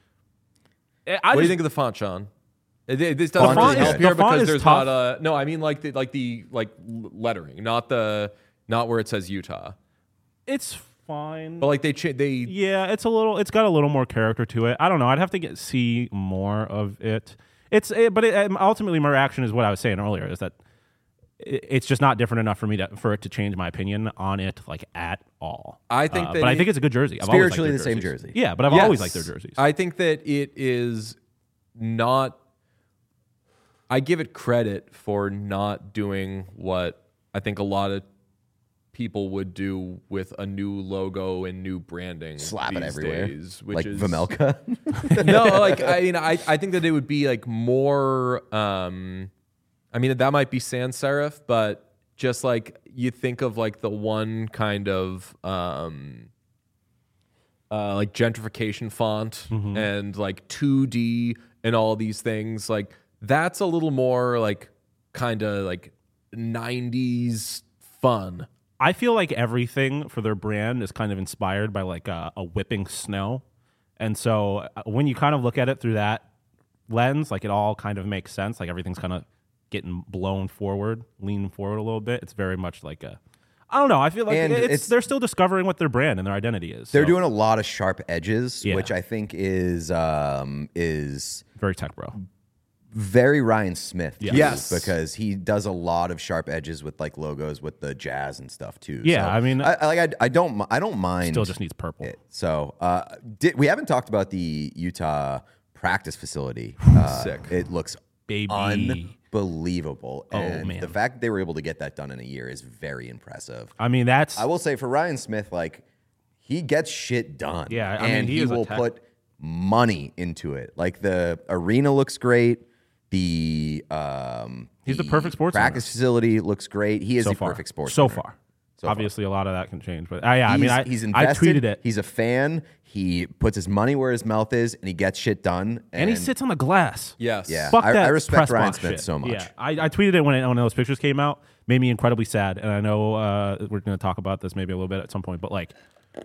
[SPEAKER 1] What do you think of the font, Sean? This doesn't really help here because there's
[SPEAKER 3] tough.
[SPEAKER 1] not a no. I mean, like the lettering, not where it says Utah.
[SPEAKER 3] It's fine,
[SPEAKER 1] but like they
[SPEAKER 3] yeah, it's got a little more character to it. I don't know. I'd have to see more of it. Ultimately my reaction is what I was saying earlier, is that it's just not different enough for it to change my opinion on it like at all.
[SPEAKER 1] I think
[SPEAKER 3] but I think it's a good jersey.
[SPEAKER 2] Spiritually the same jersey.
[SPEAKER 3] Yeah, but I've always liked their jerseys.
[SPEAKER 1] I think that it is not. I give it credit for not doing what I think a lot of people would do with a new logo and new branding.
[SPEAKER 2] Slap it everywhere.
[SPEAKER 1] Days,
[SPEAKER 2] which is Vemelka?
[SPEAKER 1] No, like I think that it would be like more I mean that might be sans serif, but just like you think of like the one kind of like gentrification font and like 2D and all these things, like that's a little more like kind of like 90s fun
[SPEAKER 3] I feel like everything for their brand is kind of inspired by like a whipping snow. And so when you kind of look at it through that lens, like it all kind of makes sense. Like everything's kind of getting blown forward, leaning forward a little bit. It's very much like I don't know. I feel like they're still discovering what their brand and their identity is.
[SPEAKER 2] They're doing a lot of sharp edges, which I think is
[SPEAKER 3] very tech bro.
[SPEAKER 2] Very Ryan Smith.
[SPEAKER 1] Yes.
[SPEAKER 2] Because he does a lot of sharp edges with like logos with the Jazz and stuff too.
[SPEAKER 3] Yeah,
[SPEAKER 2] so
[SPEAKER 3] I mean,
[SPEAKER 2] I don't mind.
[SPEAKER 3] Still just needs purple.
[SPEAKER 2] So we haven't talked about the Utah practice facility.
[SPEAKER 1] Sick.
[SPEAKER 2] It looks unbelievable. And
[SPEAKER 3] man.
[SPEAKER 2] the fact that they were able to get that done in a year is very impressive.
[SPEAKER 3] I mean,
[SPEAKER 2] I will say for Ryan Smith, like he gets shit done.
[SPEAKER 3] Yeah,
[SPEAKER 2] and he will put money into it. Like the arena looks great.
[SPEAKER 3] He's the perfect sports
[SPEAKER 2] practice
[SPEAKER 3] owner.
[SPEAKER 2] facility looks great. He is
[SPEAKER 3] so
[SPEAKER 2] the
[SPEAKER 3] far.
[SPEAKER 2] perfect sports
[SPEAKER 3] so
[SPEAKER 2] owner.
[SPEAKER 3] far.
[SPEAKER 2] So
[SPEAKER 3] Obviously, a lot of that can change, but I mean,
[SPEAKER 2] he's
[SPEAKER 3] I
[SPEAKER 2] invested.
[SPEAKER 3] tweeted it.
[SPEAKER 2] He's a fan. He puts his money where his mouth is, and he gets shit done.
[SPEAKER 3] And he sits on the glass.
[SPEAKER 1] Yes.
[SPEAKER 2] Yeah.
[SPEAKER 3] Fuck that
[SPEAKER 2] I respect
[SPEAKER 3] press
[SPEAKER 2] Ryan
[SPEAKER 3] box
[SPEAKER 2] Smith
[SPEAKER 3] shit.
[SPEAKER 2] so much.
[SPEAKER 3] Yeah, I tweeted it when those pictures came out. Made me incredibly sad, and I know we're going to talk about this maybe a little bit at some point. But like,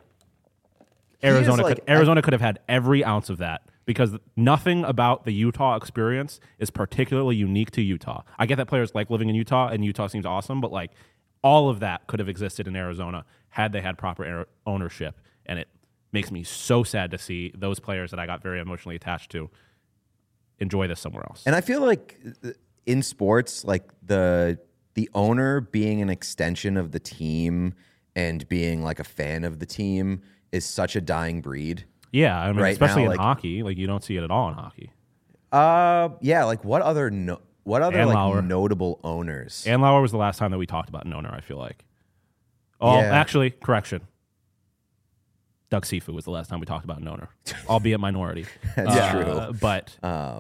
[SPEAKER 3] Arizona could have had every ounce of that because nothing about the Utah experience is particularly unique to Utah. I get that players like living in Utah, and Utah seems awesome, but like all of that could have existed in Arizona had they had proper ownership, and it makes me so sad to see those players that I got very emotionally attached to enjoy this somewhere else.
[SPEAKER 2] And I feel like in sports, like the owner being an extension of the team and being like a fan of the team is such a dying breed.
[SPEAKER 3] Yeah, I mean,
[SPEAKER 2] right
[SPEAKER 3] especially
[SPEAKER 2] now,
[SPEAKER 3] in
[SPEAKER 2] like,
[SPEAKER 3] hockey, like you don't see it at all in hockey.
[SPEAKER 2] Yeah, like what other like notable owners?
[SPEAKER 3] Andlauer was the last time that we talked about an owner, I feel like. Oh,
[SPEAKER 2] Yeah.
[SPEAKER 3] actually, correction. Doug Sifu was the last time we talked about an owner, albeit minority.
[SPEAKER 2] That's true.
[SPEAKER 3] But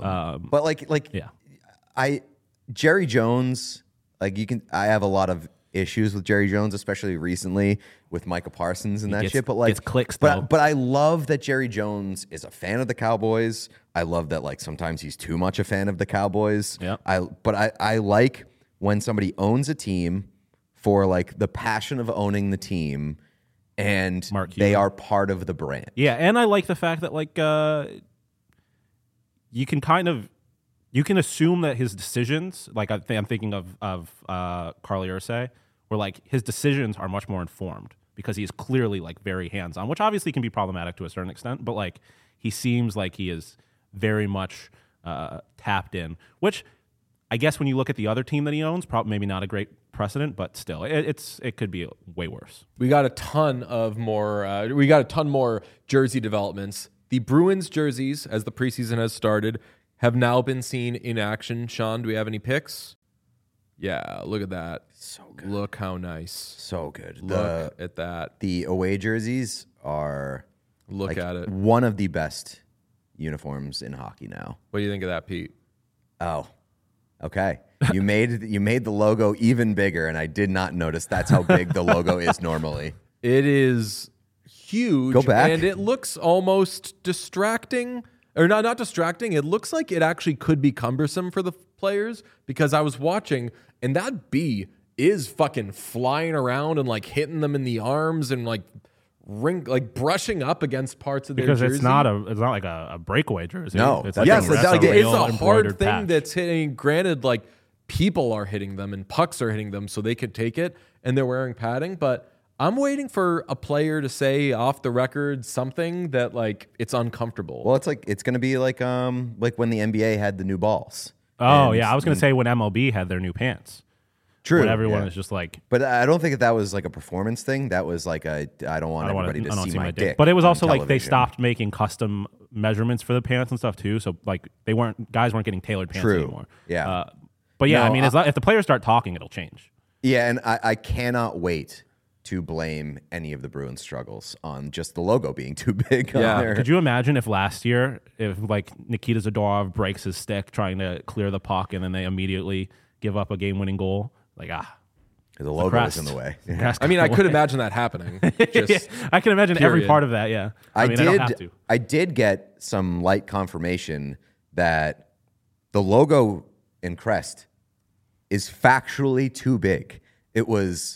[SPEAKER 2] yeah, Jerry Jones, like I have a lot of issues with Jerry Jones, especially recently with Micah Parsons and that shit. But like,
[SPEAKER 3] gets clicks,
[SPEAKER 2] but I love that Jerry Jones is a fan of the Cowboys. I love that like sometimes he's too much a fan of the Cowboys.
[SPEAKER 3] Yeah.
[SPEAKER 2] I like when somebody owns a team for like the passion of owning the team, and they are part of the brand.
[SPEAKER 3] Yeah, and I like the fact that like you can assume that his decisions, like I'm thinking of Carly Ursay, where like his decisions are much more informed because he's clearly like very hands-on, which obviously can be problematic to a certain extent, but like he seems like he is very much tapped in, which I guess when you look at the other team that he owns, probably maybe not a great precedent, but still, it could be way worse.
[SPEAKER 1] We got a ton more jersey developments. The Bruins jerseys, as the preseason has started, have now been seen in action. Sean, do we have any picks? Yeah, look at that.
[SPEAKER 2] So good.
[SPEAKER 1] Look how nice.
[SPEAKER 2] So good.
[SPEAKER 1] Look at that.
[SPEAKER 2] The away jerseys are
[SPEAKER 1] at it.
[SPEAKER 2] One of the best uniforms in hockey now.
[SPEAKER 1] What do you think of that, Pete?
[SPEAKER 2] Oh, okay. You made the logo even bigger, and I did not notice that's how big the logo is normally.
[SPEAKER 1] It is huge.
[SPEAKER 2] Go back.
[SPEAKER 1] And it looks almost distracting. Or not distracting. It looks like it actually could be cumbersome for the players because I was watching and that bee is fucking flying around and like hitting them in the arms and like brushing up against parts of their jersey.
[SPEAKER 3] Because it's not like a breakaway jersey.
[SPEAKER 2] No,
[SPEAKER 3] it's
[SPEAKER 2] like
[SPEAKER 3] like
[SPEAKER 1] it's a hard thing
[SPEAKER 3] patch.
[SPEAKER 1] that's hitting. Granted, like people are hitting them and pucks are hitting them, so they can take it and they're wearing padding. But I'm waiting for a player to say off the record something that like it's uncomfortable.
[SPEAKER 2] Well, it's going to be like when the NBA had the new balls.
[SPEAKER 3] Oh, yeah. I was going to say when MLB had their new pants.
[SPEAKER 2] True.
[SPEAKER 3] When everyone is just like...
[SPEAKER 2] But I don't think that was like a performance thing. That was like I don't want everybody to see my dick.
[SPEAKER 3] But it was also
[SPEAKER 2] television.
[SPEAKER 3] like they stopped making custom measurements for the pants and stuff too. So like guys weren't getting tailored pants anymore.
[SPEAKER 2] Yeah.
[SPEAKER 3] But yeah,
[SPEAKER 2] No,
[SPEAKER 3] I mean, if the players start talking, it'll change.
[SPEAKER 2] Yeah, and I cannot wait to blame any of the Bruins struggles on just the logo being too big.
[SPEAKER 1] Yeah.
[SPEAKER 2] On there.
[SPEAKER 3] Could you imagine if last year, if like Nikita Zadorov breaks his stick trying to clear the puck and then they immediately give up a game-winning goal? Like,
[SPEAKER 2] the logo is in the way.
[SPEAKER 1] I mean, I could imagine that happening. Just
[SPEAKER 3] I can imagine every
[SPEAKER 1] period.
[SPEAKER 3] part of that, yeah. I don't have to.
[SPEAKER 2] I did get some light confirmation that the logo in crest is factually too big. It was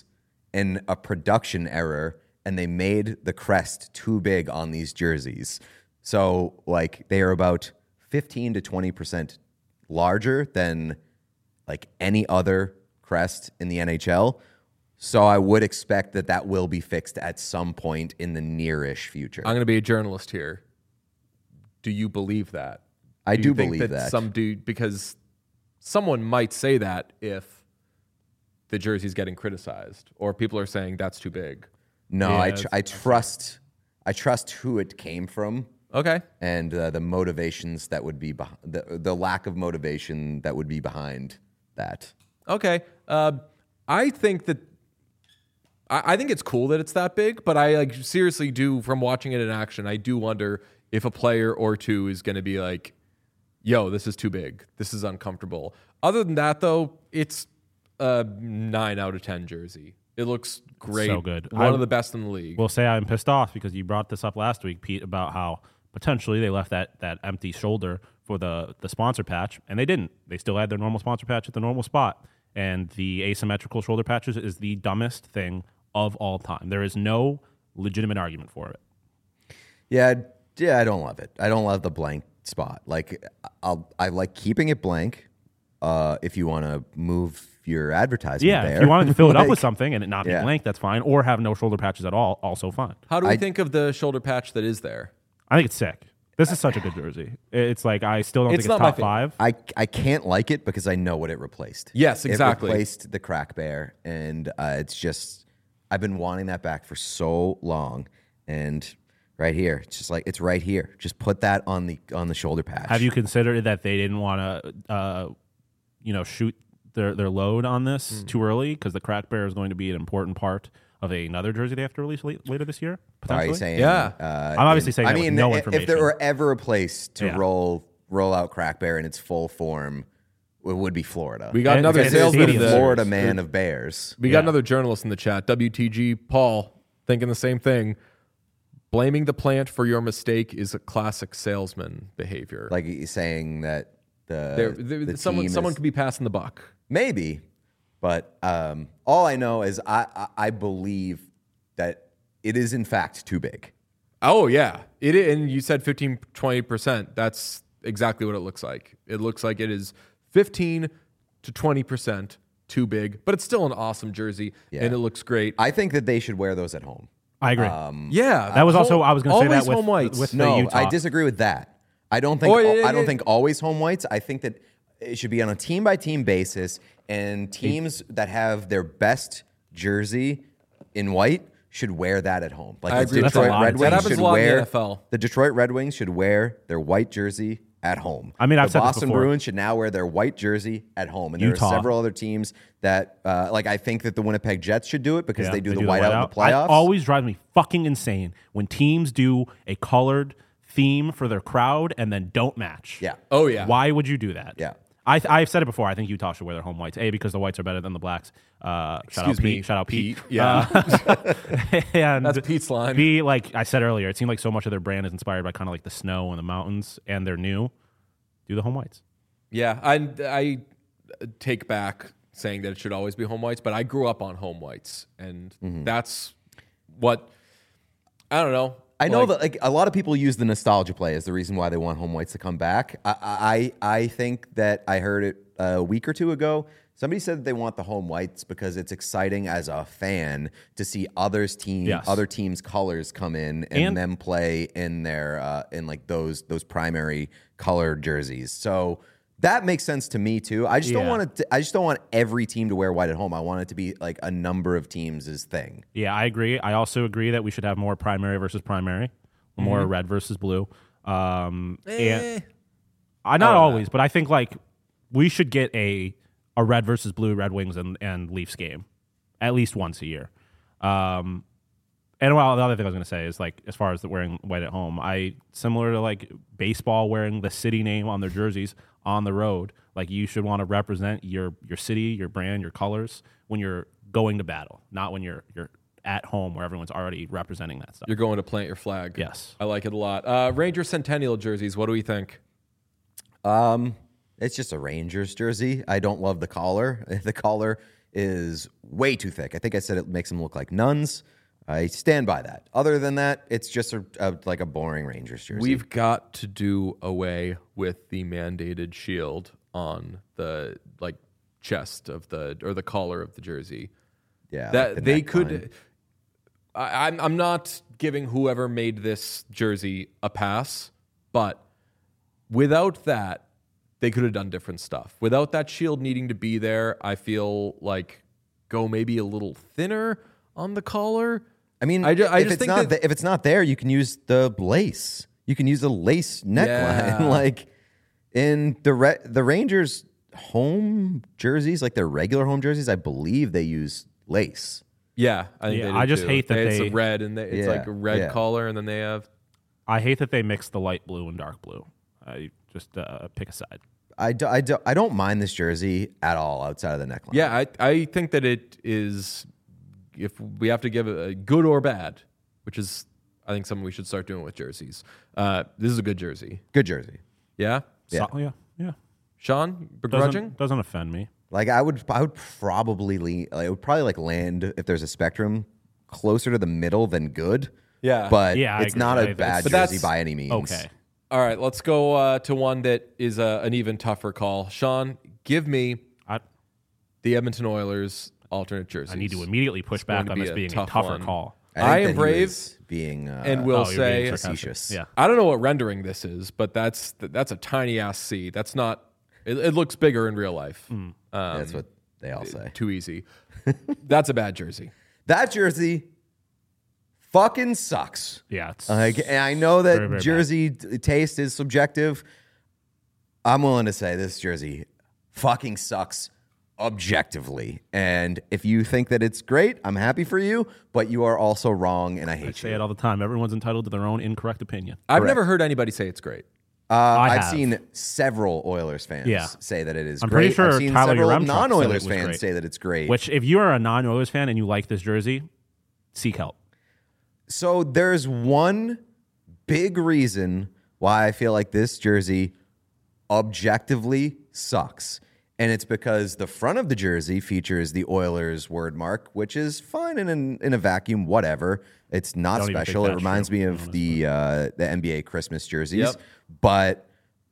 [SPEAKER 2] and a production error, and they made the crest too big on these jerseys. So, like, they are about 15 to 20% larger than, like, any other crest in the NHL. So I would expect that will be fixed at some point in the near-ish future.
[SPEAKER 1] I'm going to be a journalist here. Do you believe that?
[SPEAKER 2] I do
[SPEAKER 1] think
[SPEAKER 2] believe that.
[SPEAKER 1] Some dude, because someone might say that if the jersey's getting criticized or people are saying that's too big.
[SPEAKER 2] No,
[SPEAKER 3] Yeah,
[SPEAKER 2] I trust who it came from.
[SPEAKER 1] Okay.
[SPEAKER 2] And the motivations that would be the lack of motivation that would be behind that.
[SPEAKER 1] Okay. I think that I think it's cool that it's that big, but I like seriously do, from watching it in action, I do wonder if a player or two is going to be like, yo, this is too big. This is uncomfortable. Other than that, though, it's a 9 out of 10 jersey. It looks great.
[SPEAKER 3] So good.
[SPEAKER 1] One of the best in the league.
[SPEAKER 3] Will say I'm pissed off because you brought this up last week, Pete, about how potentially they left that empty shoulder for the sponsor patch, and they didn't. They still had their normal sponsor patch at the normal spot. And the asymmetrical shoulder patches is the dumbest thing of all time. There is no legitimate argument for it.
[SPEAKER 2] Yeah, I don't love it. I don't love the blank spot. Like, I like keeping it blank. If you want to move your advertisement,
[SPEAKER 3] Yeah,
[SPEAKER 2] there.
[SPEAKER 3] if you wanted to fill it up
[SPEAKER 2] Like,
[SPEAKER 3] with something and it not be blank, that's fine. Or have no shoulder patches at all, also fine.
[SPEAKER 1] How do we think of the shoulder patch that is there?
[SPEAKER 3] I think it's sick. This is such a good jersey. It's like, I still don't think it's
[SPEAKER 1] not my
[SPEAKER 3] top five.
[SPEAKER 2] I can't like it because I know what it replaced.
[SPEAKER 1] Yes, exactly.
[SPEAKER 2] It replaced the crack bear, and it's just, I've been wanting that back for so long, and right here, it's just like, it's right here. Just put that on the shoulder patch.
[SPEAKER 3] Have you considered that they didn't want to, shoot their load on this too early because the crack bear is going to be an important part of another jersey they have to release later this year?
[SPEAKER 2] Are
[SPEAKER 3] Potentially?
[SPEAKER 2] you saying?
[SPEAKER 1] Yeah.
[SPEAKER 3] I'm obviously saying
[SPEAKER 2] I
[SPEAKER 3] that
[SPEAKER 2] mean,
[SPEAKER 3] with no
[SPEAKER 2] if
[SPEAKER 3] information.
[SPEAKER 2] there were ever a place to
[SPEAKER 3] Yeah.
[SPEAKER 2] roll out crack bear in its full form, it would be Florida.
[SPEAKER 1] We got
[SPEAKER 3] And
[SPEAKER 1] another
[SPEAKER 3] it's
[SPEAKER 1] salesman.
[SPEAKER 3] the
[SPEAKER 1] of the-
[SPEAKER 2] Florida man of bears.
[SPEAKER 1] We got another journalist in the chat, WTG Paul, thinking the same thing. Blaming the plant for your mistake is a classic salesman behavior.
[SPEAKER 2] Like he's saying that the
[SPEAKER 1] someone
[SPEAKER 2] team is,
[SPEAKER 1] could be passing the buck.
[SPEAKER 2] maybe, but all I know is I believe that it is in fact too big.
[SPEAKER 1] Oh yeah, and you said 15-20%. That's exactly what it looks like. It looks like it is 15 to 20% too big, but it's still an awesome jersey, and it looks great.
[SPEAKER 2] I think that they should wear those at home.
[SPEAKER 3] I agree.
[SPEAKER 1] Yeah,
[SPEAKER 3] that was also, I was going to say that
[SPEAKER 1] always home whites.
[SPEAKER 3] with the
[SPEAKER 2] No,
[SPEAKER 3] Utah.
[SPEAKER 2] I disagree with that. I don't think I don't think always home whites. I think that it should be on a team by team basis, and teams that have their best jersey in white should wear that at home. Like
[SPEAKER 1] I
[SPEAKER 2] the
[SPEAKER 1] agree. That's a
[SPEAKER 2] Detroit
[SPEAKER 3] lot.
[SPEAKER 2] Red
[SPEAKER 3] That
[SPEAKER 2] Wings
[SPEAKER 1] happens
[SPEAKER 2] should
[SPEAKER 1] a lot in the
[SPEAKER 2] wear
[SPEAKER 1] NFL.
[SPEAKER 2] the Detroit Red Wings should wear their white jersey at home.
[SPEAKER 3] I mean, I've
[SPEAKER 2] the
[SPEAKER 3] said this
[SPEAKER 2] Boston
[SPEAKER 3] before.
[SPEAKER 2] Bruins should now wear their white jersey at home, and there
[SPEAKER 3] Utah.
[SPEAKER 2] are several other teams that like I think that the Winnipeg Jets should do it because
[SPEAKER 3] Yeah,
[SPEAKER 2] they do the whiteout in the playoffs.
[SPEAKER 3] It always drives me fucking insane when teams do a colored theme for their crowd and then don't match.
[SPEAKER 2] Yeah.
[SPEAKER 1] Oh yeah.
[SPEAKER 3] Why would you do that?
[SPEAKER 2] Yeah.
[SPEAKER 3] I've said it before. I think Utah should wear their home whites. A, because the whites are better than the blacks.
[SPEAKER 1] Excuse me.
[SPEAKER 3] Shout out Pete.
[SPEAKER 1] Yeah.
[SPEAKER 3] And
[SPEAKER 1] That's Pete's line.
[SPEAKER 3] B, like I said earlier, it seemed like so much of their brand is inspired by kind of like the snow and the mountains, and they're new. Do the home whites.
[SPEAKER 1] Yeah, I take back saying that it should always be home whites, but I grew up on home whites, and that's what I don't know.
[SPEAKER 2] I know that like a lot of people use the nostalgia play as the reason why they want home whites to come back. I think that I heard it a week or two ago. Somebody said that they want the home whites because it's exciting as a fan to see other teams' colors come in and them play in their in like those primary colored jerseys. So that makes sense to me too. I just don't want it. I just don't want every team to wear white at home. I want it to be like a number of teams' thing.
[SPEAKER 3] Yeah, I agree. I also agree that we should have more primary versus primary, more red versus blue. And not always, but I think like we should get a red versus blue Red Wings and Leafs game at least once a year. And well, the other thing I was going to say is like as far as the wearing white at home, similar to like baseball wearing the city name on their jerseys on the road, like you should want to represent your city, your brand, your colors when you're going to battle, not when you're at home where everyone's already representing that stuff.
[SPEAKER 1] You're going to plant your flag.
[SPEAKER 3] Yes.
[SPEAKER 1] I like it a lot. Ranger Centennial jerseys, what do we think?
[SPEAKER 2] It's just a Rangers jersey. I don't love the collar. The collar is way too thick. I think I said it makes them look like nuns. I stand by that. Other than that, it's just like a boring Rangers jersey.
[SPEAKER 1] We've got to do away with the mandated shield on the chest of the collar of the jersey.
[SPEAKER 2] Yeah,
[SPEAKER 1] that
[SPEAKER 2] like
[SPEAKER 1] they
[SPEAKER 2] neckline.
[SPEAKER 1] could. I'm not giving whoever made this jersey a pass, but without that, they could have done different stuff. Without that shield needing to be there, I feel like go maybe a little thinner on the collar.
[SPEAKER 2] I mean,
[SPEAKER 1] I just
[SPEAKER 2] if
[SPEAKER 1] think
[SPEAKER 2] if it's not there, you can use the lace. You can use the lace neckline.
[SPEAKER 1] Yeah.
[SPEAKER 2] Like in the Rangers home jerseys, like their regular home jerseys, I believe they use lace.
[SPEAKER 1] Yeah, I think they do
[SPEAKER 3] I just
[SPEAKER 1] too.
[SPEAKER 3] hate that
[SPEAKER 1] it's
[SPEAKER 3] they-
[SPEAKER 1] a red and it's like a red collar, and then they have.
[SPEAKER 3] I hate that they mix the light blue and dark blue. I just pick a side.
[SPEAKER 2] I don't mind this jersey at all outside of the neckline.
[SPEAKER 1] Yeah, I think that it is. If we have to give it a good or bad, which is I think something we should start doing with jerseys. This is a good jersey.
[SPEAKER 2] Good jersey.
[SPEAKER 1] Yeah.
[SPEAKER 3] Yeah.
[SPEAKER 1] Sean, begrudging?
[SPEAKER 3] Doesn't offend me.
[SPEAKER 2] Like I would probably lean. Like, it would probably like land if there's a spectrum closer to the middle than good.
[SPEAKER 1] Yeah.
[SPEAKER 2] But
[SPEAKER 3] Yeah, I
[SPEAKER 2] it's
[SPEAKER 3] agree.
[SPEAKER 2] not a
[SPEAKER 3] But
[SPEAKER 2] bad
[SPEAKER 1] that's-
[SPEAKER 2] jersey by any means.
[SPEAKER 3] Okay.
[SPEAKER 1] All right, let's go to one that is an even tougher call. Sean, give me the Edmonton Oilers alternate jerseys.
[SPEAKER 3] I need to immediately push
[SPEAKER 1] It's going
[SPEAKER 3] back
[SPEAKER 1] to
[SPEAKER 3] on
[SPEAKER 1] be
[SPEAKER 3] this
[SPEAKER 1] a
[SPEAKER 3] being a
[SPEAKER 1] tough
[SPEAKER 3] tougher
[SPEAKER 1] one.
[SPEAKER 3] call.
[SPEAKER 1] I
[SPEAKER 2] think
[SPEAKER 1] am
[SPEAKER 2] that he
[SPEAKER 1] brave
[SPEAKER 2] was being
[SPEAKER 1] and will
[SPEAKER 3] you're
[SPEAKER 1] say
[SPEAKER 3] being
[SPEAKER 2] facetious.
[SPEAKER 3] Yeah.
[SPEAKER 1] I don't know what rendering this is, but that's a tiny ass C. That's not. It looks bigger in real life.
[SPEAKER 2] That's what they all say.
[SPEAKER 1] Too easy. That's a bad jersey.
[SPEAKER 2] That jersey fucking sucks.
[SPEAKER 3] Yeah. It's
[SPEAKER 2] Like, and I know that
[SPEAKER 3] very, very
[SPEAKER 2] jersey taste is subjective. I'm willing to say this jersey fucking sucks objectively. And if you think that it's great, I'm happy for you, but you are also wrong, and I
[SPEAKER 3] I
[SPEAKER 2] hate
[SPEAKER 3] say
[SPEAKER 2] you.
[SPEAKER 3] it all the time. Everyone's entitled to their own incorrect opinion.
[SPEAKER 1] I've
[SPEAKER 2] Correct.
[SPEAKER 1] never heard anybody say it's great.
[SPEAKER 2] I've
[SPEAKER 3] have.
[SPEAKER 2] seen several Oilers fans
[SPEAKER 3] Yeah.
[SPEAKER 2] say that it is
[SPEAKER 3] I'm
[SPEAKER 2] great.
[SPEAKER 3] pretty sure
[SPEAKER 2] I've seen
[SPEAKER 3] Tyler
[SPEAKER 2] several
[SPEAKER 3] Yaremchuk said it
[SPEAKER 2] non-Oilers
[SPEAKER 3] was
[SPEAKER 2] fans
[SPEAKER 3] great.
[SPEAKER 2] say that it's great.
[SPEAKER 3] Which, if you are a non-Oilers fan and you like this jersey, seek help.
[SPEAKER 2] So there's one big reason why I feel like this jersey objectively sucks. And it's because the front of the jersey features the Oilers word mark, which is fine in a vacuum, whatever. It's not
[SPEAKER 3] Don't even
[SPEAKER 2] special.
[SPEAKER 3] think
[SPEAKER 2] It
[SPEAKER 3] that's
[SPEAKER 2] reminds
[SPEAKER 3] true,
[SPEAKER 2] me of the NBA Christmas jerseys.
[SPEAKER 1] Yep.
[SPEAKER 2] But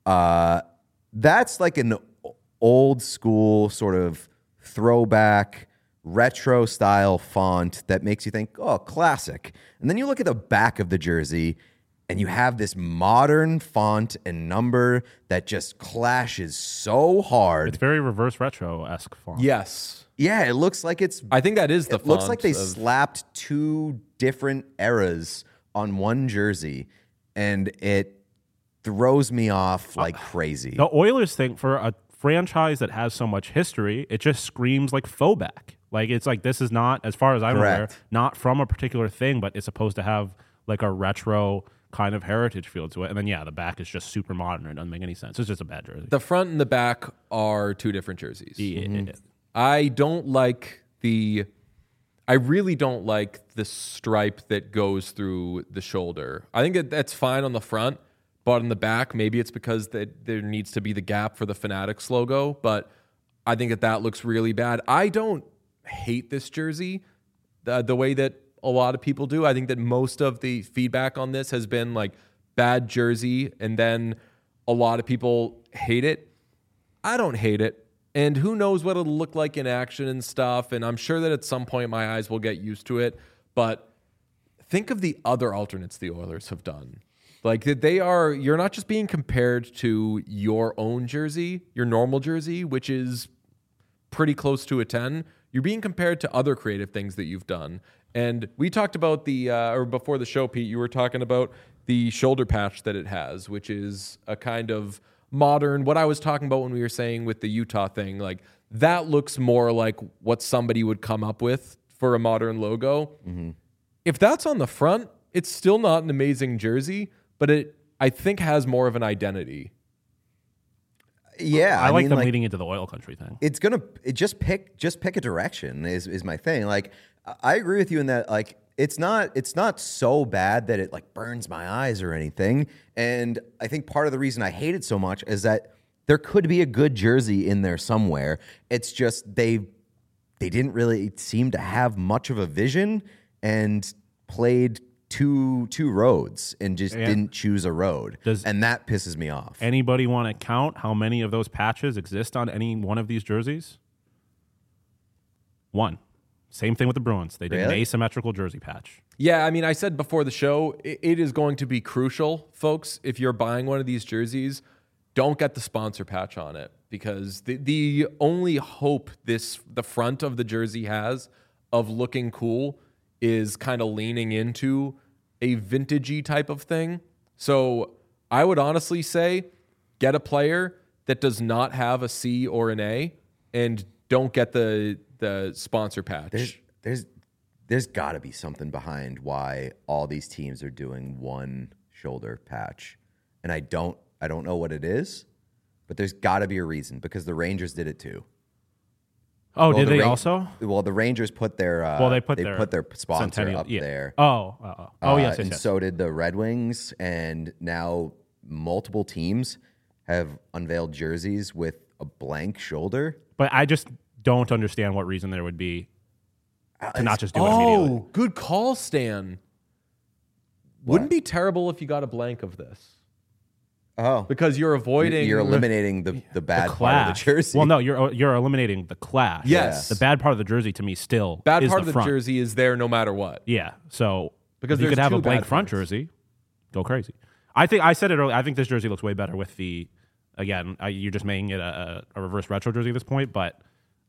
[SPEAKER 2] that's like an old school sort of throwback retro style font that makes you think, oh, classic. And then you look at the back of the jersey and you have this modern font and number that just clashes so hard.
[SPEAKER 3] It's very reverse retro-esque font.
[SPEAKER 1] Yes.
[SPEAKER 2] Yeah, it looks like it's
[SPEAKER 1] I think that is the
[SPEAKER 2] it looks like they
[SPEAKER 1] font of-
[SPEAKER 2] slapped two different eras on one jersey, and it throws me off like crazy.
[SPEAKER 3] The Oilers think for a franchise that has so much history, it just screams like throwback. Like it's like this is not, as far as I'm aware,
[SPEAKER 2] Correct.
[SPEAKER 3] not from a particular thing, but it's supposed to have like a retro kind of heritage feel to it. And then the back is just super modern. It doesn't make any sense. It's just a bad jersey.
[SPEAKER 1] The front and the back are two different jerseys.
[SPEAKER 3] Yeah.
[SPEAKER 1] I don't like I really don't like the stripe that goes through the shoulder. I think that's fine on the front, but on the back, maybe it's because there needs to be the gap for the Fanatics logo, but I think that looks really bad. I don't hate this jersey the way that a lot of people do. I think that most of the feedback on this has been like bad jersey, and then a lot of people hate it. I don't hate it. And who knows what it'll look like in action and stuff. And I'm sure that at some point my eyes will get used to it. But think of the other alternates the Oilers have done. Like you're not just being compared to your own jersey, your normal jersey, which is pretty close to a 10. You're being compared to other creative things that you've done. And we talked about or before the show, Pete, you were talking about the shoulder patch that it has, which is a kind of modern, what I was talking about when we were saying with the Utah thing, like that looks more like what somebody would come up with for a modern logo. Mm-hmm. If that's on the front, it's still not an amazing jersey, but it, I think, has more of an identity.
[SPEAKER 2] Yeah,
[SPEAKER 3] I like
[SPEAKER 2] mean,
[SPEAKER 3] them leading into the oil country thing.
[SPEAKER 2] It's gonna just pick a direction is my thing. Like I agree with you in that like it's not so bad that it like burns my eyes or anything. And I think part of the reason I hate it so much is that there could be a good jersey in there somewhere. It's just they they didn't really seem to have much of a vision and played two roads and just didn't choose a road. And that pisses me off.
[SPEAKER 3] Anybody want to count how many of those patches exist on any one of these jerseys? One. Same thing with the Bruins. They did an asymmetrical jersey patch.
[SPEAKER 1] Yeah, I mean, I said before the show, it is going to be crucial, folks, if you're buying one of these jerseys, don't get the sponsor patch on it, because the only hope the front of the jersey has of looking cool is kind of leaning into a vintagey type of thing. So I would honestly say get a player that does not have a C or an A and don't get the sponsor patch.
[SPEAKER 2] There's got to be something behind why all these teams are doing one shoulder patch. And I don't know what it is, but there's got to be a reason, because the Rangers did it too.
[SPEAKER 3] Oh, did they also?
[SPEAKER 2] Well, the Rangers put their
[SPEAKER 3] they put their
[SPEAKER 2] sponsor up there.
[SPEAKER 3] Yes.
[SPEAKER 2] And so did the Red Wings, and now multiple teams have unveiled jerseys with a blank shoulder.
[SPEAKER 3] But I just don't understand what reason there would be to not just do it immediately.
[SPEAKER 1] Oh, good call, Stan. Wouldn't be terrible if you got a blank of this.
[SPEAKER 2] Oh,
[SPEAKER 1] because you're avoiding,
[SPEAKER 2] you're eliminating the bad part of the jersey.
[SPEAKER 3] Well, no, you're eliminating the clash.
[SPEAKER 1] Yes,
[SPEAKER 3] the bad part of the jersey to me still
[SPEAKER 1] bad
[SPEAKER 3] is
[SPEAKER 1] part of the
[SPEAKER 3] front.
[SPEAKER 1] jersey is there no matter what.
[SPEAKER 3] Yeah, so
[SPEAKER 1] because
[SPEAKER 3] if you could have a blank
[SPEAKER 1] bad
[SPEAKER 3] front
[SPEAKER 1] parts.
[SPEAKER 3] jersey, go crazy. I said it earlier. I think this jersey looks way better with the. Again, you're just making it a reverse retro jersey at this point, but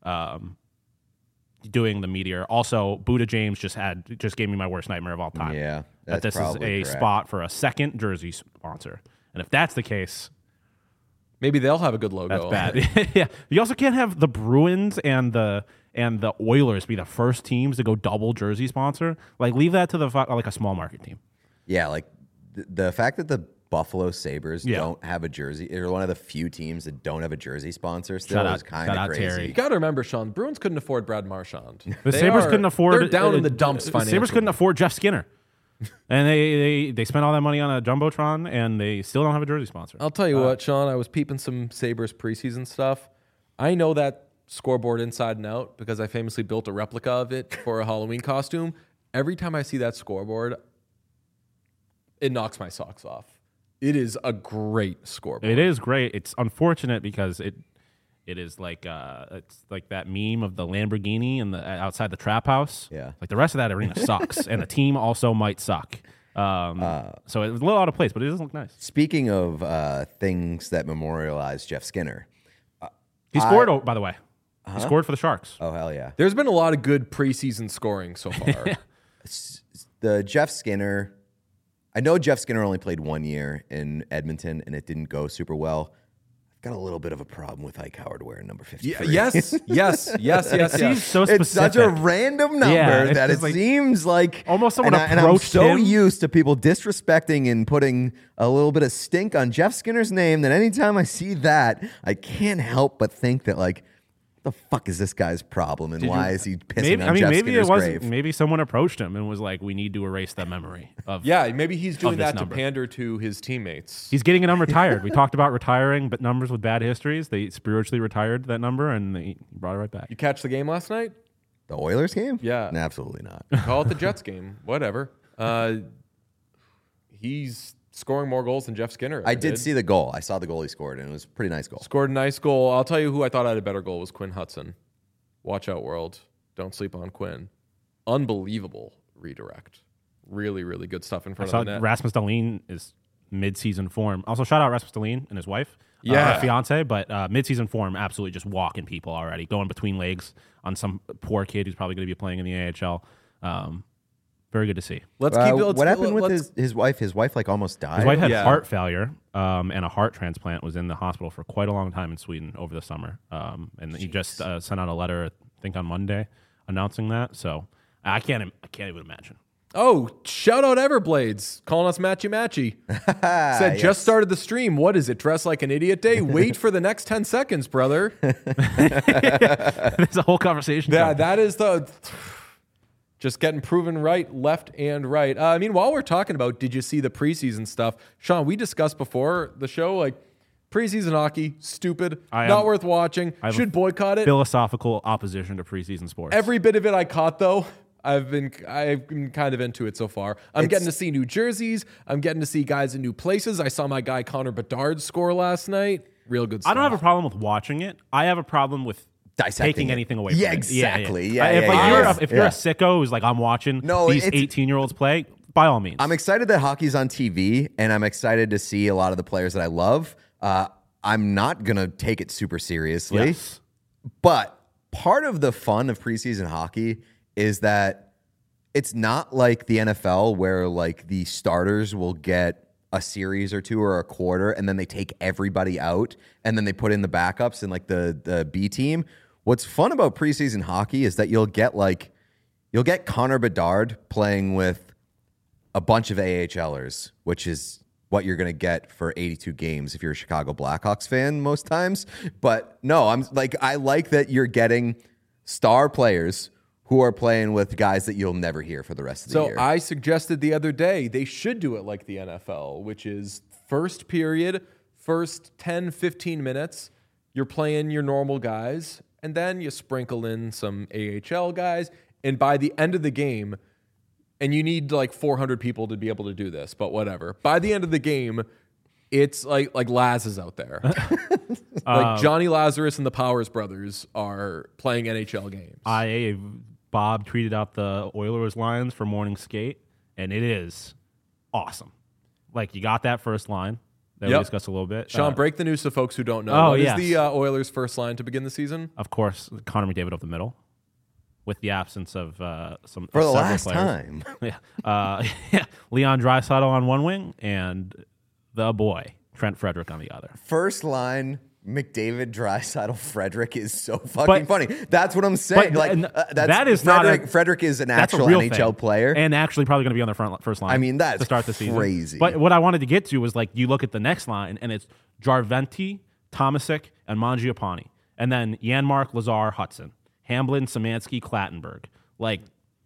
[SPEAKER 3] doing the meteor. Also, Buddha James just gave me my worst nightmare of all time.
[SPEAKER 2] Yeah,
[SPEAKER 3] that this is a spot for a second jersey sponsor, and if that's the case.
[SPEAKER 1] Maybe they'll have a good logo.
[SPEAKER 3] That's bad. Yeah, you also can't have the Bruins and the Oilers be the first teams to go double jersey sponsor. Like, leave that to like a small market team.
[SPEAKER 2] Yeah, like the fact that the Buffalo Sabres don't have a jersey, they're one of the few teams that don't have a jersey sponsor still, is kind of crazy.
[SPEAKER 1] Terry. You got to remember, Sean, Bruins couldn't afford Brad Marchand.
[SPEAKER 3] The Sabres couldn't afford.
[SPEAKER 1] They're down in the dumps financially.
[SPEAKER 3] The Sabres couldn't afford Jeff Skinner. And they spent all that money on a Jumbotron, and they still don't have a jersey sponsor.
[SPEAKER 1] I'll tell you what, Sean, I was peeping some Sabres preseason stuff. I know that scoreboard inside and out because I famously built a replica of it for a Halloween costume. Every time I see that scoreboard, it knocks my socks off. It is a great scoreboard.
[SPEAKER 3] It is great. It's unfortunate because it is like it's like that meme of the Lamborghini and the outside the trap house.
[SPEAKER 2] Yeah,
[SPEAKER 3] like the rest of that arena sucks, and the team also might suck. So it was a little out of place, but it doesn't look nice.
[SPEAKER 2] Speaking of things that memorialize Jeff Skinner,
[SPEAKER 3] he scored. By the way, he scored for the Sharks.
[SPEAKER 2] Oh hell yeah!
[SPEAKER 1] There's been a lot of good preseason scoring so far.
[SPEAKER 2] The Jeff Skinner. I know Jeff Skinner only played 1 year in Edmonton, and it didn't go super well. Got a little bit of a problem with Ike Howard wearing number 53.
[SPEAKER 1] Yes.
[SPEAKER 3] It seems so specific.
[SPEAKER 2] It's such a random number that it seems like
[SPEAKER 3] almost someone approached
[SPEAKER 2] and I'm so
[SPEAKER 3] him.
[SPEAKER 2] used to people disrespecting and putting a little bit of stink on Jeff Skinner's name that anytime I see that, I can't help but think that, like, the fuck is this guy's problem, and why is he pissing on Jeff Skinner's grave?
[SPEAKER 3] Maybe someone approached him and was like, "We need to erase the memory of."
[SPEAKER 1] Yeah, maybe he's doing that
[SPEAKER 3] number.
[SPEAKER 1] to pander to his teammates.
[SPEAKER 3] He's getting a number retired. We talked about retiring, but numbers with bad histories. They spiritually retired that number, and they brought it right back.
[SPEAKER 1] You catch the game last night?
[SPEAKER 2] The Oilers game?
[SPEAKER 1] Yeah,
[SPEAKER 2] absolutely not.
[SPEAKER 1] Call it the Jets game. Whatever. He's scoring more goals than Jeff Skinner.
[SPEAKER 2] I did see the goal. I saw the goal he scored, and it was a pretty nice goal.
[SPEAKER 1] Scored a nice goal. I'll tell you who I thought had a better goal was Quinn Hudson. Watch out, world. Don't sleep on Quinn. Unbelievable redirect. Really, really good stuff in front of the net.
[SPEAKER 3] Rasmus Dahlin is mid-season form. Also, shout out Rasmus Dahlin and his wife, fiance, but mid-season form, absolutely just walking people already, going between legs on some poor kid who's probably going to be playing in the AHL. Very good to see.
[SPEAKER 2] What happened with his wife? His wife almost died.
[SPEAKER 3] His wife had heart failure, and a heart transplant. Was in the hospital for quite a long time in Sweden over the summer. And he just sent out a letter, I think on Monday, announcing that. So I can't even imagine.
[SPEAKER 1] Oh, shout out Everblades calling us Matchy Matchy. Said just started the stream. What is it? Dress like an idiot day? Wait for the next 10 seconds, brother.
[SPEAKER 3] There's a whole conversation.
[SPEAKER 1] That is the. Just getting proven right, left and right. I mean, while we're talking about, did you see the preseason stuff? Sean, we discussed before the show, like, Preseason hockey, stupid,
[SPEAKER 3] I
[SPEAKER 1] not
[SPEAKER 3] am-
[SPEAKER 1] worth watching.
[SPEAKER 3] I have
[SPEAKER 1] Should
[SPEAKER 3] a
[SPEAKER 1] boycott it.
[SPEAKER 3] Philosophical opposition to preseason sports.
[SPEAKER 1] Every bit of it I caught though. I've been kind of into it so far. I'm getting to see new jerseys. I'm getting to see guys in new places. I saw my guy Connor Bedard score last night. Real good stuff.
[SPEAKER 3] I don't have a problem with watching it. I have a problem with
[SPEAKER 2] Dissecting
[SPEAKER 3] taking
[SPEAKER 2] it.
[SPEAKER 3] anything away
[SPEAKER 2] Yeah,
[SPEAKER 3] from
[SPEAKER 2] exactly.
[SPEAKER 3] it.
[SPEAKER 2] Yeah,
[SPEAKER 3] if
[SPEAKER 2] yeah,
[SPEAKER 3] like,
[SPEAKER 2] yeah,
[SPEAKER 3] you're
[SPEAKER 2] yeah.
[SPEAKER 3] if you're a sicko who's like, I'm watching these
[SPEAKER 2] it's-
[SPEAKER 3] 18-year-olds play, by all means.
[SPEAKER 2] I'm excited that hockey's on TV, and I'm excited to see a lot of the players that I love. I'm not going to take it super seriously.
[SPEAKER 3] Yes.
[SPEAKER 2] But part of the fun of preseason hockey is that it's not like the NFL where like the starters will get a series or two or a quarter and then they take everybody out and then they put in the backups and like the B team. What's fun about preseason hockey is that you'll get Connor Bedard playing with a bunch of AHLers, which is what you're going to get for 82 games if you're a Chicago Blackhawks fan most times. But no, I like that you're getting star players who are playing with guys that you'll never hear for the rest of the year.
[SPEAKER 1] So I suggested the other day they should do it like the NFL, which is first period, first 10, 15 minutes, you're playing your normal guys, and then you sprinkle in some AHL guys, and by the end of the game, and you need like 400 people to be able to do this, but whatever. By the end of the game, it's like Laz is out there. Like Johnny Lazarus and the Powers brothers are playing NHL games.
[SPEAKER 3] Bob tweeted out the Oilers lines for morning skate, and it is awesome. Like, you got that first line that we discussed a little bit.
[SPEAKER 1] Sean, break the news to folks who don't know.
[SPEAKER 3] Oh,
[SPEAKER 1] What
[SPEAKER 3] yes.
[SPEAKER 1] is the Oilers' first line to begin the season?
[SPEAKER 3] Of course, Connor McDavid up the middle, with the absence of some
[SPEAKER 2] for the
[SPEAKER 3] several
[SPEAKER 2] last
[SPEAKER 3] players.
[SPEAKER 2] time.
[SPEAKER 3] Yeah. Leon Draisaitl on one wing and the boy Trent Frederick on the other.
[SPEAKER 2] First line, McDavid, Draisaitl, Frederick is so fucking funny. That's what I'm saying.
[SPEAKER 3] That is
[SPEAKER 2] Frederick is an
[SPEAKER 3] that's a
[SPEAKER 2] actual
[SPEAKER 3] real
[SPEAKER 2] NHL
[SPEAKER 3] thing.
[SPEAKER 2] player,
[SPEAKER 3] and actually probably going to be on the first line.
[SPEAKER 2] I mean, that's
[SPEAKER 3] to start the season.
[SPEAKER 2] crazy.
[SPEAKER 3] But what I wanted to get to was like you look at the next line, and it's Jarventi, Tomasic, and Mangiapane, and then Janmark, Lazar, Hudson, Hamblin, Szymanski, Klattenberg. Like,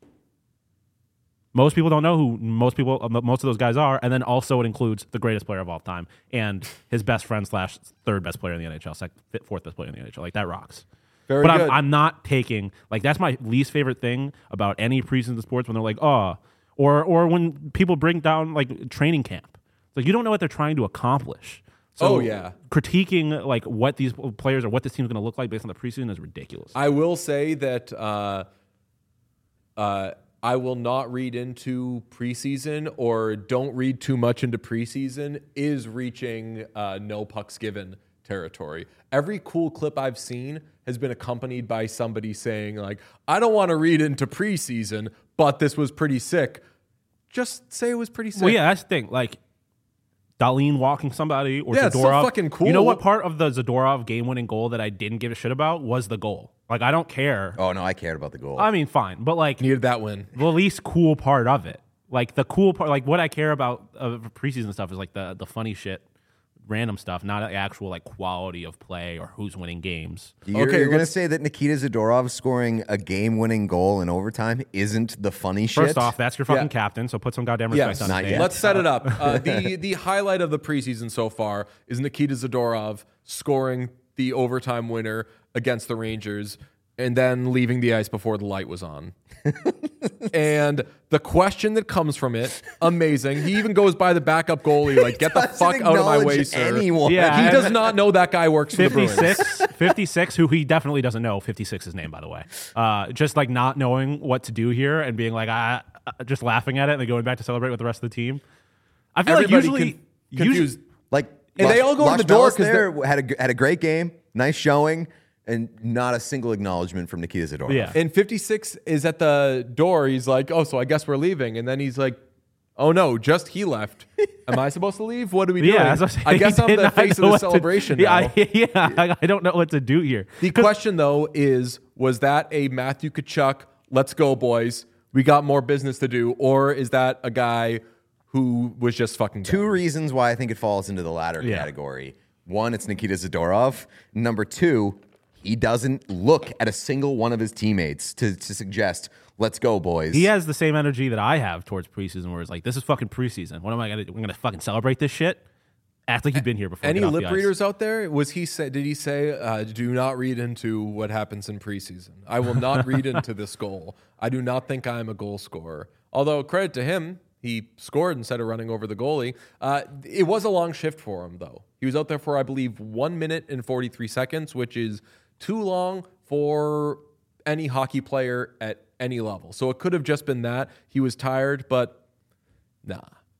[SPEAKER 3] most people don't know who most of those guys are, and then also it includes the greatest player of all time and his best friend / third best player in the NHL, fourth best player in the NHL. Like, that rocks.
[SPEAKER 1] Very
[SPEAKER 3] but
[SPEAKER 1] good.
[SPEAKER 3] I'm not taking, like, that's my least favorite thing about any preseason sports when they're like, or when people bring down like training camp. It's like, you don't know what they're trying to accomplish. So critiquing like what these players or what this team's going to look like based on the preseason is ridiculous.
[SPEAKER 1] I will say that I will not read into preseason, or don't read too much into preseason, is reaching no pucks given territory. Every cool clip I've seen has been accompanied by somebody saying like, I don't want to read into preseason, but this was pretty sick. Just say it was pretty sick.
[SPEAKER 3] Well, yeah, that's the thing. Like, Dahlin walking somebody or
[SPEAKER 1] Yeah,
[SPEAKER 3] Zadorov.
[SPEAKER 1] it's so fucking cool.
[SPEAKER 3] You know what part of the Zadorov game-winning goal that I didn't give a shit about was the goal. Like, I don't care.
[SPEAKER 2] Oh, no, I cared about the goal.
[SPEAKER 3] I mean, fine. But, like,
[SPEAKER 1] needed that win.
[SPEAKER 3] The least cool part of it. Like, the cool part, like, what I care about of preseason stuff is, like, the funny shit, random stuff, not the actual, like, quality of play or who's winning games.
[SPEAKER 2] You're going to say that Nikita Zadorov scoring a game-winning goal in overtime isn't the funny shit?
[SPEAKER 3] First off, that's your fucking captain, so put some goddamn respect on his name.
[SPEAKER 1] Let's set it up. The highlight of the preseason so far is Nikita Zadorov scoring the overtime winner against the Rangers and then leaving the ice before the light was on. And the question that comes from it, amazing. He even goes by the backup goalie, like, get the fuck out of my way, sir.
[SPEAKER 2] Anyone.
[SPEAKER 3] Yeah,
[SPEAKER 1] he does not know that guy works for the Bruins.
[SPEAKER 3] 56, who he definitely doesn't know 56's name, by the way. Just like not knowing what to do here and being like, just laughing at it and then going back to celebrate with the rest of the team. I feel
[SPEAKER 1] Everybody
[SPEAKER 3] like usually
[SPEAKER 1] confused.
[SPEAKER 2] Like,
[SPEAKER 1] and they all go to the door because
[SPEAKER 2] had a great game, nice showing, and not a single acknowledgement from Nikita Zadorov.
[SPEAKER 3] Yeah.
[SPEAKER 1] And 56 is at the door. He's like, oh, so I guess we're leaving. And then he's like, oh, no, just he left. Am I supposed to leave? What are we doing?
[SPEAKER 3] Yeah,
[SPEAKER 1] I guess I'm the face of the celebration now.
[SPEAKER 3] I don't know what to do here.
[SPEAKER 1] The question, though, is, was that a Matthew Tkachuk, let's go, boys, we got more business to do, or is that a guy who was just fucking
[SPEAKER 2] Two
[SPEAKER 1] dumb?
[SPEAKER 2] reasons why I think it falls into the latter category. One, it's Nikita Zadorov. Number two, he doesn't look at a single one of his teammates to suggest, let's go, boys.
[SPEAKER 3] He has the same energy that I have towards preseason, where it's like, this is fucking preseason. What am I going to do? I'm going to fucking celebrate this shit? Act like you've been here before.
[SPEAKER 1] Any
[SPEAKER 3] Get off the
[SPEAKER 1] lip
[SPEAKER 3] ice.
[SPEAKER 1] readers out there? Did he say, do not read into what happens in preseason? I will not read into this goal. I do not think I'm a goal scorer. Although, credit to him, he scored instead of running over the goalie. It was a long shift for him, though. He was out there for, I believe, 1 minute and 43 seconds, which is too long for any hockey player at any level. So it could have just been that. He was tired, but nah.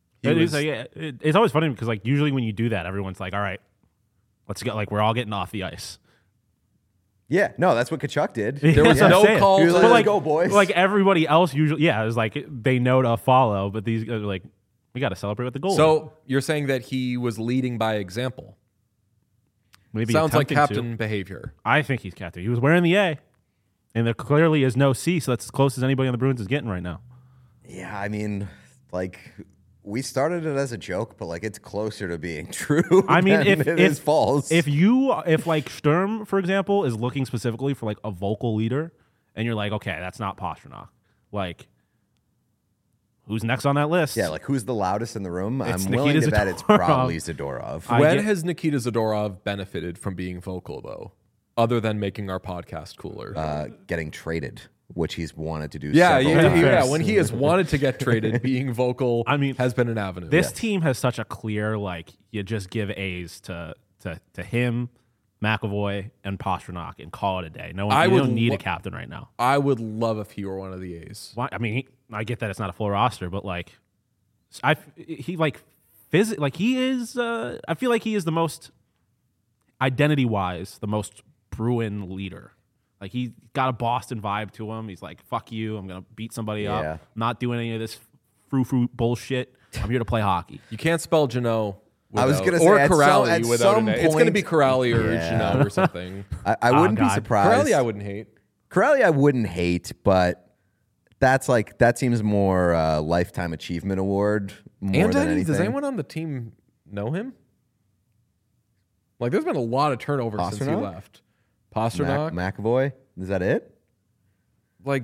[SPEAKER 3] It's always funny because like usually when you do that, everyone's like, all right, let's go. Like we're all getting off the ice.
[SPEAKER 2] Yeah, no, that's what Tkachuk did.
[SPEAKER 1] There was no call.
[SPEAKER 2] He was like,
[SPEAKER 3] But
[SPEAKER 2] let's go, boys.
[SPEAKER 3] Like everybody else usually, it was like they know to follow, but these guys are like, we got to celebrate with the goal.
[SPEAKER 1] So you're saying that he was leading by example.
[SPEAKER 3] Maybe
[SPEAKER 1] Sounds like
[SPEAKER 3] attempting
[SPEAKER 1] captain
[SPEAKER 3] to.
[SPEAKER 1] behavior.
[SPEAKER 3] I think he's captain. He was wearing the A, and there clearly is no C, so that's as close as anybody on the Bruins is getting right now.
[SPEAKER 2] Yeah, I mean, like we started it as a joke, but like it's closer to being true.
[SPEAKER 3] I mean,
[SPEAKER 2] than it is false.
[SPEAKER 3] If like Sturm, for example, is looking specifically for like a vocal leader, and you're like, okay, that's not Pastrnak. Like, who's next on that list?
[SPEAKER 2] Yeah, like who's the loudest in the room?
[SPEAKER 3] It's
[SPEAKER 2] I'm willing to
[SPEAKER 3] Nikita
[SPEAKER 2] bet it's
[SPEAKER 3] Zadorov.
[SPEAKER 2] probably Zadorov.
[SPEAKER 1] When has Nikita Zadorov benefited from being vocal, though, other than making our podcast cooler?
[SPEAKER 2] Getting traded, which he's wanted to do.
[SPEAKER 1] Yeah.
[SPEAKER 2] several times.
[SPEAKER 1] When he has wanted to get traded, being vocal,
[SPEAKER 3] I mean,
[SPEAKER 1] has been an avenue.
[SPEAKER 3] This team has such a clear like you just give A's to him, McAvoy, and Pastrnak and call it a day. No one, you don't need a captain right now.
[SPEAKER 1] I would love if he were one of the A's.
[SPEAKER 3] Why? I mean, I get that it's not a full roster, but like, he is. I feel like he is the most identity-wise the most Bruin leader. Like he got a Boston vibe to him. He's like, "Fuck you! I'm gonna beat somebody up. I'm not doing any of this frou-frou bullshit. I'm here to play hockey."
[SPEAKER 1] You can't spell Janot.
[SPEAKER 2] I was going to say,
[SPEAKER 1] or
[SPEAKER 2] at
[SPEAKER 1] Corrali without
[SPEAKER 2] some
[SPEAKER 1] an A. It's going to
[SPEAKER 2] point-
[SPEAKER 1] be Corrali or
[SPEAKER 2] Yeah.
[SPEAKER 1] Janot or something.
[SPEAKER 2] I wouldn't be surprised.
[SPEAKER 1] Corrali, I wouldn't hate.
[SPEAKER 2] Corrali, I wouldn't hate, but that seems more lifetime achievement award more than anything.
[SPEAKER 1] Does anyone on the team know him? Like, there's been a lot of turnover since he
[SPEAKER 2] Pastrnak?
[SPEAKER 1] left. Pastrnak,
[SPEAKER 2] McAvoy, is that it?
[SPEAKER 1] like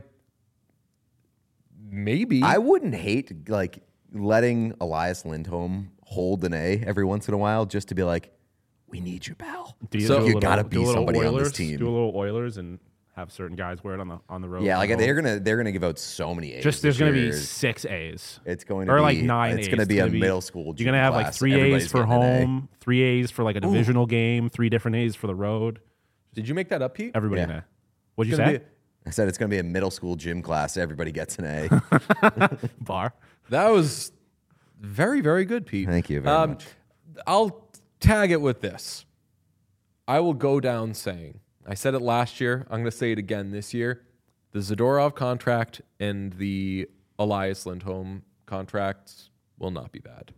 [SPEAKER 1] maybe.
[SPEAKER 2] I wouldn't hate like letting Elias Lindholm hold an A every once in a while just to be like, we need you, pal.
[SPEAKER 3] So
[SPEAKER 2] you got to be somebody on this team.
[SPEAKER 3] Do a little Oilers and have certain guys wear it on the road.
[SPEAKER 2] Yeah, like they're gonna give out so many A's.
[SPEAKER 3] Just there's
[SPEAKER 2] this
[SPEAKER 3] going to be
[SPEAKER 2] year.
[SPEAKER 3] 6 A's.
[SPEAKER 2] It's going to
[SPEAKER 3] or
[SPEAKER 2] be
[SPEAKER 3] like 9
[SPEAKER 2] It's
[SPEAKER 3] A's.
[SPEAKER 2] going to be a middle school.
[SPEAKER 3] You're going to have like 3 A's for home, 3 A's for like a divisional game, 3 different A's for the road.
[SPEAKER 1] Did you make that up, Pete?
[SPEAKER 3] Everybody in A. What'd you
[SPEAKER 1] It's gonna
[SPEAKER 3] say?
[SPEAKER 1] be-
[SPEAKER 2] I said it's going to be a middle school gym class. Everybody gets an A.
[SPEAKER 3] Bar.
[SPEAKER 1] That was very, very good, Pete.
[SPEAKER 2] Thank you very much.
[SPEAKER 1] I'll tag it with this. I will go down saying, I said it last year. I'm going to say it again this year. The Zadorov contract and the Elias Lindholm contracts will not be bad.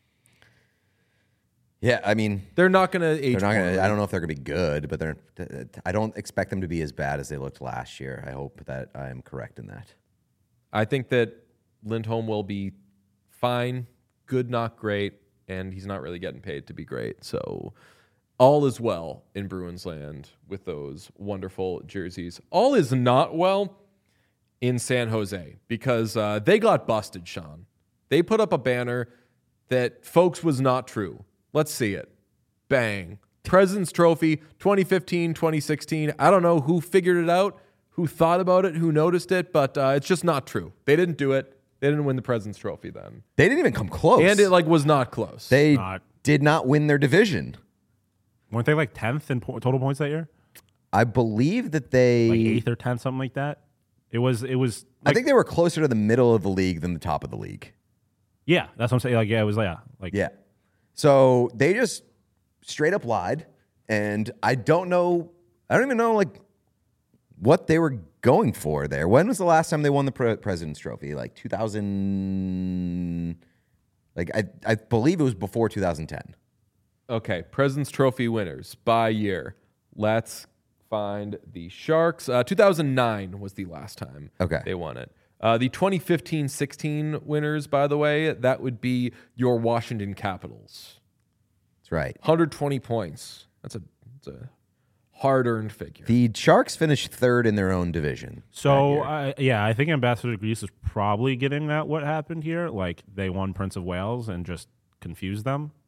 [SPEAKER 2] Yeah, I mean,
[SPEAKER 1] They're not going to age.
[SPEAKER 2] they're not going to.
[SPEAKER 1] poorly.
[SPEAKER 2] I don't know if they're going to be good, but I don't expect them to be as bad as they looked last year. I hope that I am correct in that.
[SPEAKER 1] I think that Lindholm will be fine, good, not great, and he's not really getting paid to be great. So all is well in Bruins land with those wonderful jerseys. All is not well in San Jose because they got busted, Sean. They put up a banner that, folks, was not true. Let's see it. Bang. President's Trophy 2015, 2016. I don't know who figured it out, who thought about it, who noticed it, but it's just not true. They didn't do it. They didn't win the President's Trophy then.
[SPEAKER 2] They didn't even come close,
[SPEAKER 1] And it was not close.
[SPEAKER 2] they did not win their division.
[SPEAKER 3] Weren't they like 10th in total points that year?
[SPEAKER 2] I believe that they
[SPEAKER 3] Like 8th or 10th, something like that. It was.
[SPEAKER 2] I think they were closer to the middle of the league than the top of the league.
[SPEAKER 3] Yeah, that's what I'm saying. Like, yeah, it was
[SPEAKER 2] Yeah. So they just straight up lied, and I don't even know like what they were going for there. When was the last time they won the President's Trophy? Like 2000. Like I believe it was before 2010.
[SPEAKER 1] Okay, President's Trophy winners by year. Let's find the Sharks. 2009 was the last time they won it. The 2015-16 winners, by the way, that would be your Washington Capitals.
[SPEAKER 2] That's right.
[SPEAKER 1] 120 points. That's a hard-earned figure.
[SPEAKER 2] The Sharks finished third in their own division.
[SPEAKER 3] So, I think Ambassador Greece is probably getting that what happened here. Like, they won Prince of Wales and just confused them.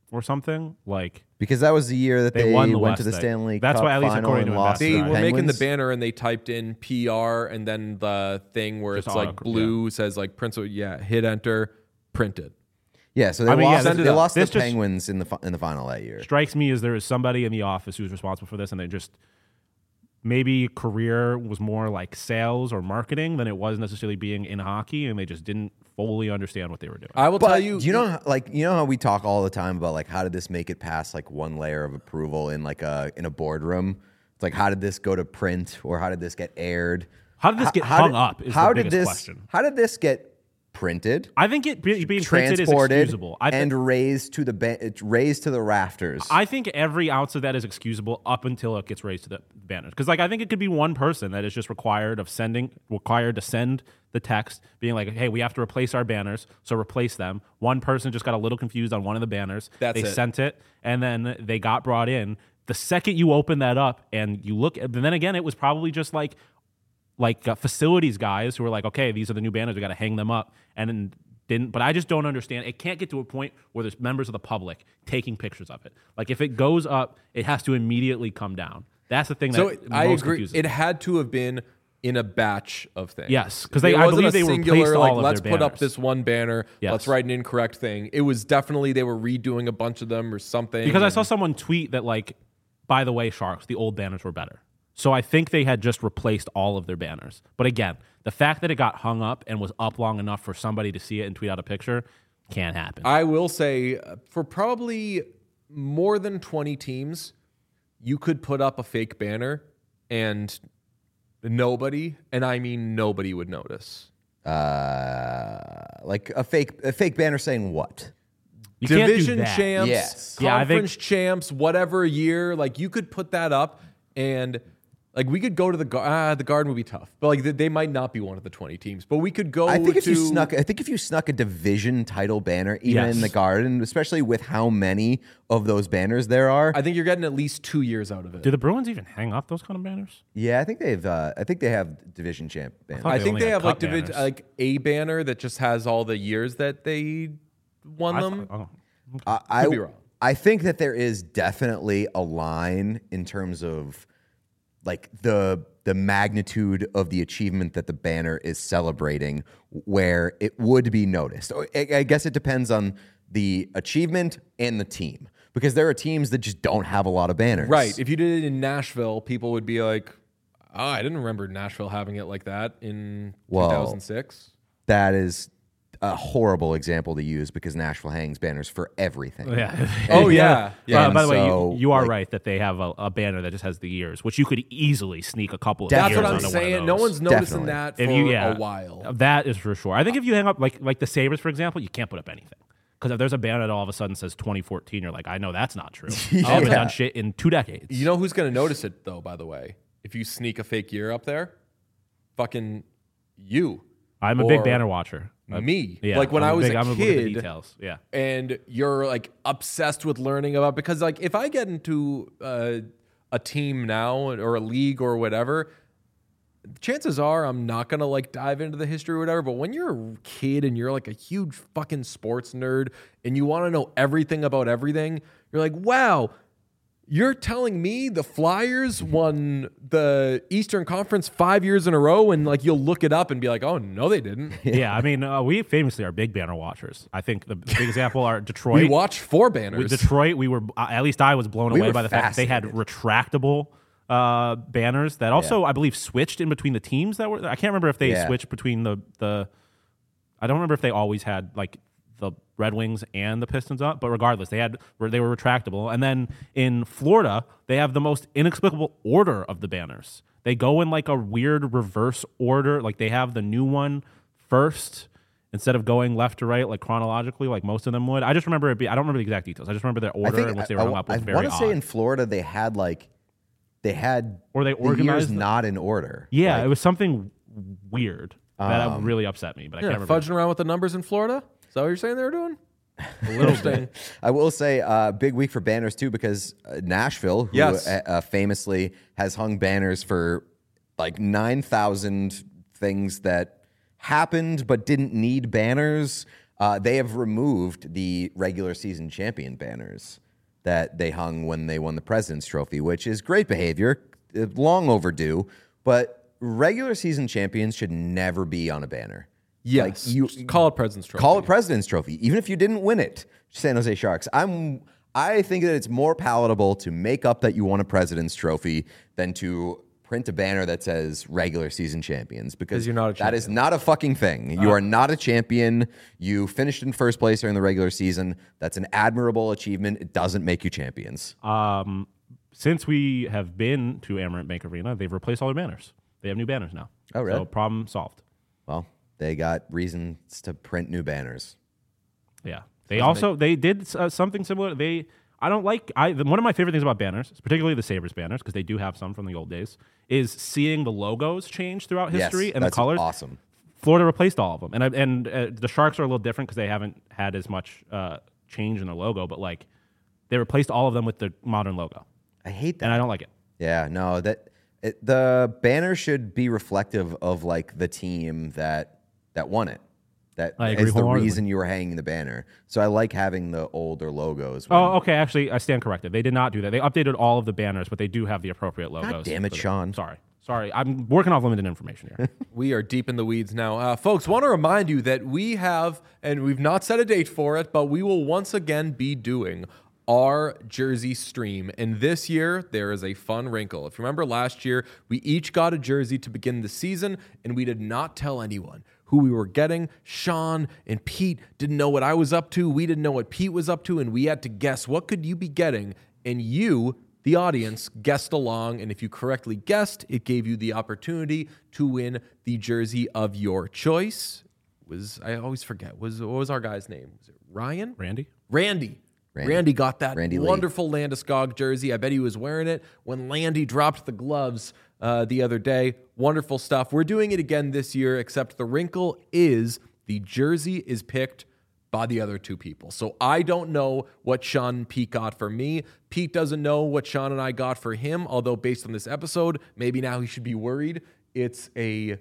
[SPEAKER 3] or something. Like
[SPEAKER 2] because that was the year that they
[SPEAKER 3] won the
[SPEAKER 2] went to
[SPEAKER 3] West
[SPEAKER 2] the
[SPEAKER 3] thing.
[SPEAKER 2] Stanley
[SPEAKER 3] That's
[SPEAKER 2] Cup
[SPEAKER 3] why, at least
[SPEAKER 2] final
[SPEAKER 3] according
[SPEAKER 2] and
[SPEAKER 3] to
[SPEAKER 2] lost to
[SPEAKER 1] They
[SPEAKER 2] the
[SPEAKER 1] were making the
[SPEAKER 2] Penguins.
[SPEAKER 1] banner and they typed in PR and then the thing where
[SPEAKER 3] Just
[SPEAKER 1] it's like
[SPEAKER 3] auto-
[SPEAKER 1] blue says like Prince. Hit enter, printed.
[SPEAKER 2] Yeah, so they
[SPEAKER 3] I mean,
[SPEAKER 2] lost.
[SPEAKER 3] yeah,
[SPEAKER 2] They lost the
[SPEAKER 3] this just
[SPEAKER 2] Penguins in the final that year.
[SPEAKER 3] strikes me as there is somebody in the office who's responsible for this, and they just maybe career was more like sales or marketing than it was necessarily being in hockey, and they just didn't fully understand what they were doing.
[SPEAKER 1] I will
[SPEAKER 2] But
[SPEAKER 1] tell you.
[SPEAKER 2] do you know how we talk all the time about like how did this make it past like one layer of approval in like in a boardroom? It's like how did this go to print or how did this get aired?
[SPEAKER 3] How did this get hung up is the biggest question.
[SPEAKER 2] How did this get printed?
[SPEAKER 3] I think it being printed is
[SPEAKER 2] transported
[SPEAKER 3] excusable.
[SPEAKER 2] and raised to the rafters.
[SPEAKER 3] I think every ounce of that is excusable up until it gets raised to the banners. Because like I think it could be one person that is just required to send the text being like, hey, we have to replace our banners, so replace them. One person just got a little confused on one of the banners. They sent it, and then they got brought in. The second you open that up and you look, and then again, it was probably just like facilities guys who were like, okay, these are the new banners, we got to hang them up, and then didn't. But I just don't understand. It can't get to a point where there's members of the public taking pictures of it. Like if it goes up, it has to immediately come down. That's the thing.
[SPEAKER 1] So
[SPEAKER 3] that
[SPEAKER 1] I
[SPEAKER 3] most
[SPEAKER 1] agree.
[SPEAKER 3] confuses
[SPEAKER 1] It
[SPEAKER 3] me.
[SPEAKER 1] had to have been in a batch of things.
[SPEAKER 3] Yes, because
[SPEAKER 1] It
[SPEAKER 3] I
[SPEAKER 1] wasn't
[SPEAKER 3] believe
[SPEAKER 1] a
[SPEAKER 3] they
[SPEAKER 1] singular,
[SPEAKER 3] replaced all of
[SPEAKER 1] let's
[SPEAKER 3] their
[SPEAKER 1] put up
[SPEAKER 3] banners.
[SPEAKER 1] this one banner.
[SPEAKER 3] Yes.
[SPEAKER 1] Let's write an incorrect thing. It was definitely they were redoing a bunch of them or something.
[SPEAKER 3] Because I saw someone tweet that like, by the way, Sharks, the old banners were better. So I think they had just replaced all of their banners. But again, the fact that it got hung up and was up long enough for somebody to see it and tweet out a picture can't happen.
[SPEAKER 1] I will say for probably more than 20 teams, you could put up a fake banner and nobody, and I mean nobody, would notice.
[SPEAKER 2] Like a fake banner saying what?
[SPEAKER 3] You can't do
[SPEAKER 1] Division
[SPEAKER 3] that.
[SPEAKER 1] champs,
[SPEAKER 2] Yes.
[SPEAKER 3] Yeah, I think-
[SPEAKER 1] conference champs, whatever year, like you could put that up and like we could go to the Garden would be tough, but like they might not be one of the 20 teams, but we could go.
[SPEAKER 2] I think if
[SPEAKER 1] to,
[SPEAKER 2] you snuck a division title banner even
[SPEAKER 3] Yes.
[SPEAKER 2] in the Garden, especially with how many of those banners there are.
[SPEAKER 1] I think you're getting at least 2 years out of it.
[SPEAKER 3] Do the Bruins even hang up those kind of banners?
[SPEAKER 2] Yeah, I think they have division champ banners.
[SPEAKER 3] thought
[SPEAKER 1] I
[SPEAKER 3] they
[SPEAKER 1] think
[SPEAKER 3] only
[SPEAKER 1] they
[SPEAKER 3] had
[SPEAKER 1] have like
[SPEAKER 3] cup banners.
[SPEAKER 1] like a banner that just has all the years that they won them. Could be wrong.
[SPEAKER 2] I think that there is definitely a line in terms of like the magnitude of the achievement that the banner is celebrating where it would be noticed. I guess it depends on the achievement and the team because there are teams that just don't have a lot of banners.
[SPEAKER 1] Right. If you did it in Nashville, people would be like, "Oh, I didn't remember Nashville having it like that in 2006."
[SPEAKER 2] That is a horrible example to use because Nashville hangs banners for everything.
[SPEAKER 3] Yeah.
[SPEAKER 1] Oh, yeah.
[SPEAKER 2] Yeah.
[SPEAKER 3] By the way,
[SPEAKER 2] So,
[SPEAKER 3] you are
[SPEAKER 2] like-
[SPEAKER 3] right that they have a banner that just has the years, which you could easily sneak a couple of
[SPEAKER 1] That's
[SPEAKER 3] years
[SPEAKER 1] what I'm
[SPEAKER 3] onto one of
[SPEAKER 1] saying.
[SPEAKER 3] those.
[SPEAKER 1] No one's noticing
[SPEAKER 2] Definitely.
[SPEAKER 1] that for
[SPEAKER 3] If you,
[SPEAKER 1] a while.
[SPEAKER 3] That is for sure. I think if you hang up like the Sabres, for example, you can't put up anything. Because if there's a banner that all of a sudden says 2014, you're like, I know that's not true. They haven't done shit in 2 decades.
[SPEAKER 1] You know who's going to notice it, though, by the way? If you sneak a fake year up there? Fucking you.
[SPEAKER 3] I'm a big
[SPEAKER 1] Or
[SPEAKER 3] banner watcher.
[SPEAKER 1] Me.
[SPEAKER 3] Yeah,
[SPEAKER 1] Like when I was
[SPEAKER 3] I'm
[SPEAKER 1] a
[SPEAKER 3] look at the
[SPEAKER 1] kid.
[SPEAKER 3] details. Yeah.
[SPEAKER 1] And you're like obsessed with learning about, because like if I get into a team now or a league or whatever, chances are I'm not going to like dive into the history or whatever. But when you're a kid and you're like a huge fucking sports nerd and you want to know everything about everything, you're like, wow, you're telling me the Flyers won the Eastern Conference 5 years in a row, and like you'll look it up and be like, oh, no, they didn't.
[SPEAKER 3] Yeah, I mean, we famously are big banner watchers. I think the big example are Detroit.
[SPEAKER 1] We watched 4 banners.
[SPEAKER 3] With Detroit, we were, at least I was blown
[SPEAKER 2] We
[SPEAKER 3] away
[SPEAKER 2] were
[SPEAKER 3] by the fact that they had retractable banners that also, I believe, switched in between the teams that were. I can't remember if they switched between the. I don't remember if they always had like the Red Wings and the Pistons up, but regardless, they were retractable. And then in Florida, they have the most inexplicable order of the banners. They go in like a weird reverse order. Like they have the new one first instead of going left to right, like chronologically, like most of them would. I just remember I don't remember the exact details. I just remember their order in which they were hung up was very odd.
[SPEAKER 2] I want to say in Florida they had
[SPEAKER 3] or they
[SPEAKER 2] the
[SPEAKER 3] organized
[SPEAKER 2] years
[SPEAKER 3] them.
[SPEAKER 2] not in order.
[SPEAKER 3] Yeah,
[SPEAKER 2] Like,
[SPEAKER 3] it was something weird that really upset me, but I can't remember.
[SPEAKER 1] Fudging around with the numbers in Florida? Is that what you're saying they were doing? A little thing.
[SPEAKER 2] I will say big week for banners too because Nashville, who famously has hung banners for like 9,000 things that happened but didn't need banners. They have removed the regular season champion banners that they hung when they won the President's Trophy, which is great behavior, long overdue. But regular season champions should never be on a banner.
[SPEAKER 1] Yes, you call it President's Trophy.
[SPEAKER 2] Call it President's Trophy, even if you didn't win it. San Jose Sharks. I think that it's more palatable to make up that you won a President's Trophy than to print a banner that says regular season champions, because
[SPEAKER 1] you're not a
[SPEAKER 2] that is
[SPEAKER 1] champion.
[SPEAKER 2] not a fucking thing. You are not a champion. You finished in first place during the regular season. That's an admirable achievement. It doesn't make you champions.
[SPEAKER 3] Since we have been to Amerant Bank Arena, they've replaced all their banners. They have new banners now.
[SPEAKER 2] Oh, really?
[SPEAKER 3] So problem solved.
[SPEAKER 2] Well, they got reasons to print new banners.
[SPEAKER 3] Yeah. They did something similar. One of my favorite things about banners, particularly the Sabres banners, because they do have some from the old days, is seeing the logos change throughout history and the colors.
[SPEAKER 2] Awesome.
[SPEAKER 3] Florida replaced all of them, and the Sharks are a little different because they haven't had as much change in their logo, but like they replaced all of them with the modern logo.
[SPEAKER 2] I hate that,
[SPEAKER 3] and I don't like it.
[SPEAKER 2] Yeah, no, the banner should be reflective of like the team that won it. That is the reason you were hanging the banner. So I like having the older logos.
[SPEAKER 3] Oh, okay. Actually, I stand corrected. They did not do that. They updated all of the banners, but they do have the appropriate logos.
[SPEAKER 2] God damn it, Sean.
[SPEAKER 3] Sorry. I'm working off limited information here.
[SPEAKER 1] We are deep in the weeds now. Folks, want to remind you that we have, and we've not set a date for it, but we will once again be doing our jersey stream. And this year, there is a fun wrinkle. If you remember last year, we each got a jersey to begin the season, and we did not tell anyone who we were getting. Sean and Pete didn't know what I was up to. We didn't know what Pete was up to, and we had to guess what could you be getting. And you, the audience, guessed along, and if you correctly guessed, it gave you the opportunity to win the jersey of your choice. I always forget. What was our guy's name? Was it Ryan? Randy got that wonderful Landeskog jersey. I bet he was wearing it when Landy dropped the gloves the other day. Wonderful stuff. We're doing it again this year, except the wrinkle is the jersey is picked by the other two people. So I don't know what Sean and Pete got for me. Pete doesn't know what Sean and I got for him, although based on this episode, maybe now he should be worried. It's a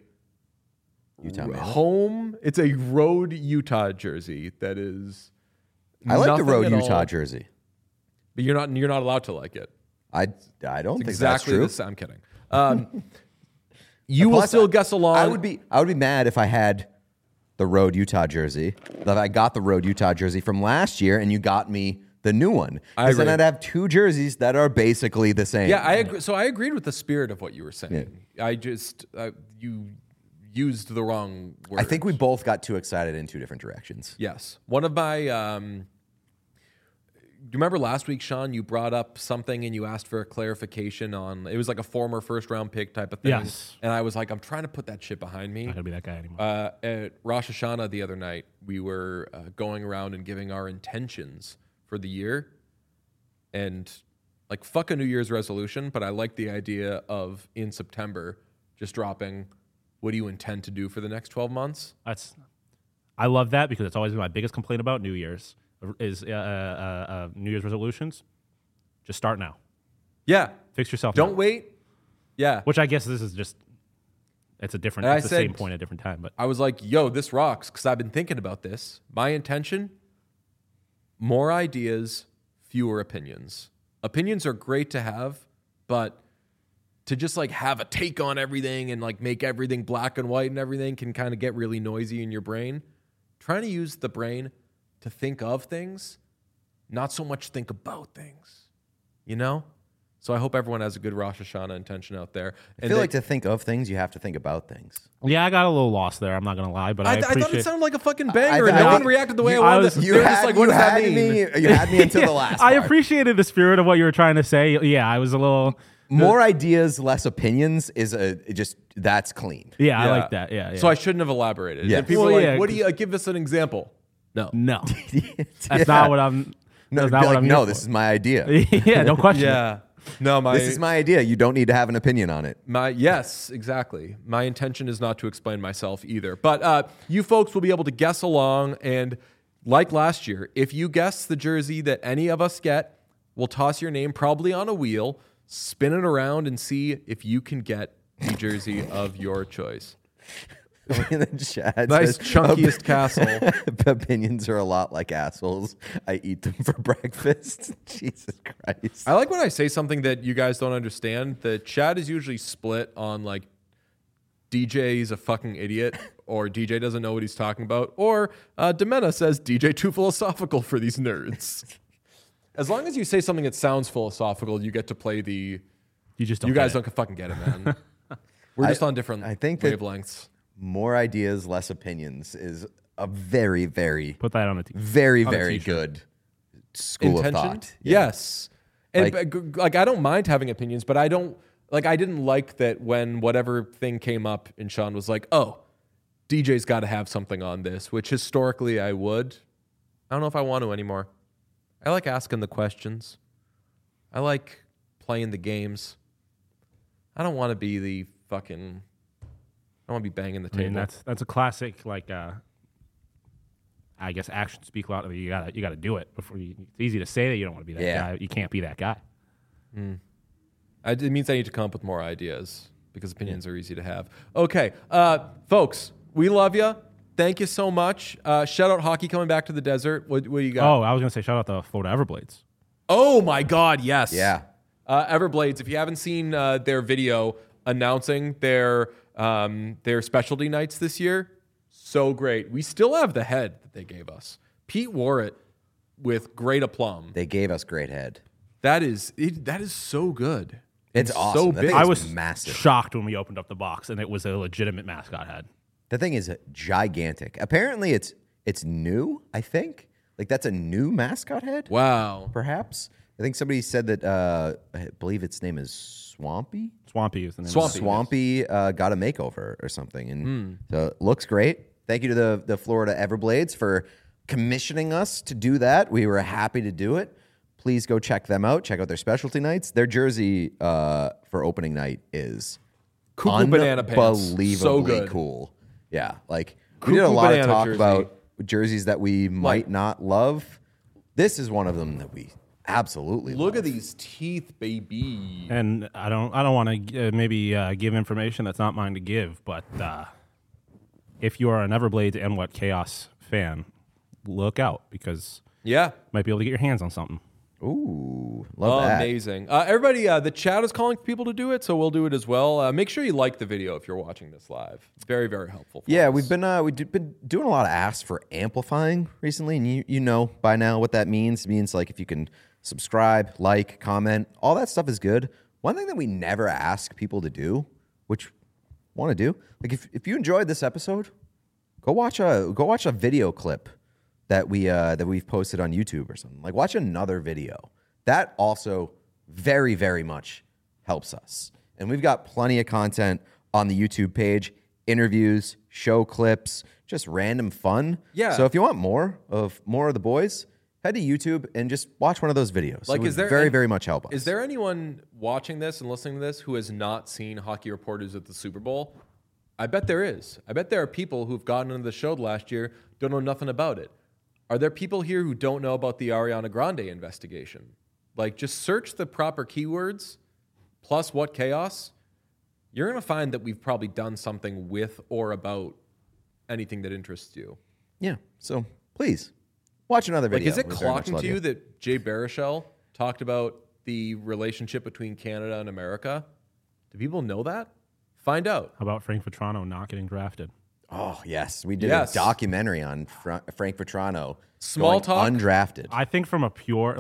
[SPEAKER 1] it's a road Utah jersey that is...
[SPEAKER 2] I like the road Utah jersey,
[SPEAKER 1] but you're not allowed to like it.
[SPEAKER 2] I don't think
[SPEAKER 1] exactly
[SPEAKER 2] that's true.
[SPEAKER 1] I'm kidding. You will still guess along.
[SPEAKER 2] I would be mad if I had the road Utah jersey. That I got the road Utah jersey from last year, and you got me the new one. Because then I'd have two jerseys that are basically the same.
[SPEAKER 1] Yeah, I agree. So I agreed with the spirit of what you were saying. Yeah. I just you used the wrong word.
[SPEAKER 2] I think we both got too excited in two different directions.
[SPEAKER 1] Yes. One of my... do you remember last week, Sean, you brought up something and you asked for a clarification on... It was like a former first-round pick type of thing.
[SPEAKER 3] Yes.
[SPEAKER 1] And I was like, I'm trying to put that shit behind me.
[SPEAKER 3] Not going to be that guy anymore.
[SPEAKER 1] At Rosh Hashanah the other night, we were going around and giving our intentions for the year. And like, fuck a New Year's resolution, but I like the idea of, in September, just dropping... What do you intend to do for the next 12 months?
[SPEAKER 3] I love that because it's always been my biggest complaint about New Year's is New Year's resolutions. Just start now.
[SPEAKER 1] Yeah.
[SPEAKER 3] Fix yourself.
[SPEAKER 1] Don't
[SPEAKER 3] now.
[SPEAKER 1] wait. Yeah.
[SPEAKER 3] Which I guess this is just, it's the same point at a different time. But
[SPEAKER 1] I was like, yo, this rocks because I've been thinking about this. My intention, more ideas, fewer opinions. Opinions are great to have, but to just like have a take on everything and like make everything black and white and everything can kind of get really noisy in your brain. Trying to use the brain to think of things, not so much think about things, you know? So I hope everyone has a good Rosh Hashanah intention out there.
[SPEAKER 2] I feel like to think of things, you have to think about things.
[SPEAKER 3] Yeah, I got a little lost there. I'm not going to lie, but I appreciate...
[SPEAKER 1] I thought it sounded like a fucking banger, and no one reacted the way I wanted.
[SPEAKER 2] You had me until the last
[SPEAKER 3] I
[SPEAKER 2] part.
[SPEAKER 3] appreciated the spirit of what you were trying to say. Yeah, I was a little...
[SPEAKER 2] More ideas, less opinions is that's clean.
[SPEAKER 3] Yeah, I like that. Yeah.
[SPEAKER 1] So I shouldn't have elaborated.
[SPEAKER 2] Yes.
[SPEAKER 1] And people are like, what do you give us an example? No.
[SPEAKER 3] That's not what I'm...
[SPEAKER 2] No, this is my idea.
[SPEAKER 3] Yeah, don't question it.
[SPEAKER 1] No,
[SPEAKER 2] this is my idea. You don't need to have an opinion on it.
[SPEAKER 1] Yes, exactly. My intention is not to explain myself either. But you folks will be able to guess along. And like last year, if you guess the jersey that any of us get, we'll toss your name probably on a wheel, spin it around, and see if you can get the jersey of your choice.
[SPEAKER 2] In the chat
[SPEAKER 1] Nice
[SPEAKER 2] says,
[SPEAKER 1] chunkiest castle.
[SPEAKER 2] Opinions are a lot like assholes. I eat them for breakfast. Jesus Christ.
[SPEAKER 1] I like when I say something that you guys don't understand. The chat is usually split on like DJ's a fucking idiot or DJ doesn't know what he's talking about, or Demena says DJ too philosophical for these nerds. As long as you say something that sounds philosophical, you get to play the.
[SPEAKER 3] You just don't.
[SPEAKER 1] You guys don't fucking get it, man. We're just on different wavelengths.
[SPEAKER 2] More ideas, less opinions is a very, very
[SPEAKER 3] put that on a
[SPEAKER 2] very, very good school of thought. Yeah.
[SPEAKER 1] Yes, and like I don't mind having opinions, but I don't like. I didn't like that when whatever thing came up, and Sean was like, "Oh, DJ's got to have something on this," which historically I would. I don't know if I want to anymore. I like asking the questions. I like playing the games. I don't want to be the fucking. I want to be banging the table.
[SPEAKER 3] I mean, that's a classic, like, I guess actions speak louder. You gotta do it before you. It's easy to say that you don't want to be that guy. You can't be that guy.
[SPEAKER 1] It means I need to come up with more ideas because opinions are easy to have. Okay, folks, we love you. Thank you so much. Shout out Hockey coming back to the desert. What do you got?
[SPEAKER 3] Oh, I was gonna say shout out the Florida Everblades.
[SPEAKER 1] Oh my God, yes.
[SPEAKER 2] Yeah.
[SPEAKER 1] Everblades. If you haven't seen their video announcing their specialty nights this year, so great. We still have the head that they gave us. Pete wore it with great aplomb.
[SPEAKER 2] They gave us great head.
[SPEAKER 1] That is so good.
[SPEAKER 2] It's awesome.
[SPEAKER 1] So big.
[SPEAKER 3] I was
[SPEAKER 2] massive.
[SPEAKER 3] shocked when we opened up the box and it was a legitimate mascot head.
[SPEAKER 2] The thing is gigantic. Apparently, it's new. I think that's a new mascot head.
[SPEAKER 1] Wow.
[SPEAKER 2] Perhaps. I think somebody said that. I believe its name is Swampy.
[SPEAKER 3] Swampy is the name.
[SPEAKER 2] Swampy got a makeover or something, and so it looks great. Thank you to the Florida Everblades for commissioning us to do that. We were happy to do it. Please go check them out. Check out their specialty nights. Their jersey for opening night is
[SPEAKER 1] Cuckoo banana pants.
[SPEAKER 2] Unbelievably
[SPEAKER 1] So good.
[SPEAKER 2] cool. Yeah, like
[SPEAKER 1] Cuckoo
[SPEAKER 2] we did a lot of
[SPEAKER 1] banana
[SPEAKER 2] talk
[SPEAKER 1] jersey.
[SPEAKER 2] about jerseys that we might not love. This is one of them that we absolutely
[SPEAKER 1] Look
[SPEAKER 2] love.
[SPEAKER 1] at these teeth, baby.
[SPEAKER 3] And I don't want to maybe give information that's not mine to give, but if you are an Everblades and What Chaos fan, look out because
[SPEAKER 1] Yeah.
[SPEAKER 3] might be able to get your hands on something.
[SPEAKER 2] Ooh, love that.
[SPEAKER 1] Amazing. Everybody, the chat is calling for people to do it, so we'll do it as well. Make sure you like the video if you're watching this live. Very, very helpful. For us.
[SPEAKER 2] We've been doing a lot of asks for amplifying recently, and you know by now what that means. It means like if you can subscribe, like, comment, all that stuff is good. One thing that we never ask people to do, which want to do, like if you enjoyed this episode, go watch a video clip that we've posted on YouTube or something. Like watch another video. That also very, very much helps us. And we've got plenty of content on the YouTube page, interviews, show clips, just random fun.
[SPEAKER 1] Yeah.
[SPEAKER 2] So if you want more of the boys, head to YouTube and just watch one of those videos.
[SPEAKER 1] Like,
[SPEAKER 2] it would
[SPEAKER 1] is there
[SPEAKER 2] very, very much help us.
[SPEAKER 1] Is there anyone watching this and listening to this who has not seen Hockey Reporters at the Super Bowl? I bet there is. I bet there are people who've gotten into the show last year, don't know nothing about it. Are there people here who don't know about the Ariana Grande investigation? Like, just search the proper keywords plus What Chaos. You're going to find that we've probably done something with or about anything that interests you.
[SPEAKER 2] Yeah. So please watch another video.
[SPEAKER 1] Like, is it
[SPEAKER 2] We very much
[SPEAKER 1] clocking
[SPEAKER 2] love
[SPEAKER 1] to you that Jay Baruchel talked about the relationship between Canada and America? Do people know that? Find out.
[SPEAKER 3] How about Frank Vetrano not getting drafted?
[SPEAKER 2] Oh, yes. We did a documentary on Frank Vetrano.
[SPEAKER 1] Small
[SPEAKER 2] going
[SPEAKER 1] talk?
[SPEAKER 2] Undrafted.
[SPEAKER 3] I think from a pure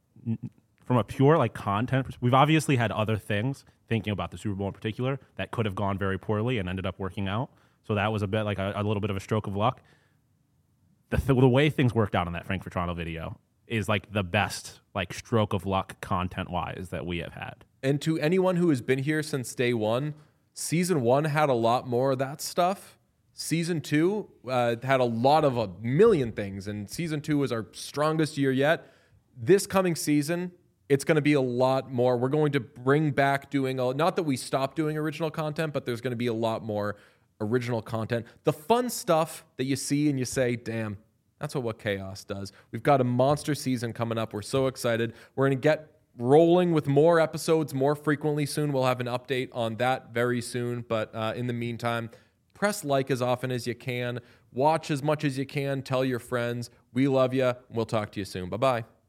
[SPEAKER 3] content, we've obviously had other things, thinking about the Super Bowl in particular, that could have gone very poorly and ended up working out. So that was a bit like a little bit of a stroke of luck. The way things worked out in that Frank Vetrano video is like the best like stroke of luck content-wise that we have had.
[SPEAKER 1] And to anyone who has been here since day one, season 1 had a lot more of that stuff. Season 2 had a lot of a million things, and season 2 was our strongest year yet. This coming season, it's going to be a lot more. We're going to bring back not that we stopped doing original content, but there's going to be a lot more original content. The fun stuff that you see and you say, damn, that's what Chaos does. We've got a monster season coming up. We're so excited. We're going to get rolling with more episodes more frequently soon. We'll have an update on that very soon. But in the meantime, Press like as often as you can. Watch as much as you can. Tell your friends. We love you. We'll talk to you soon. Bye-bye.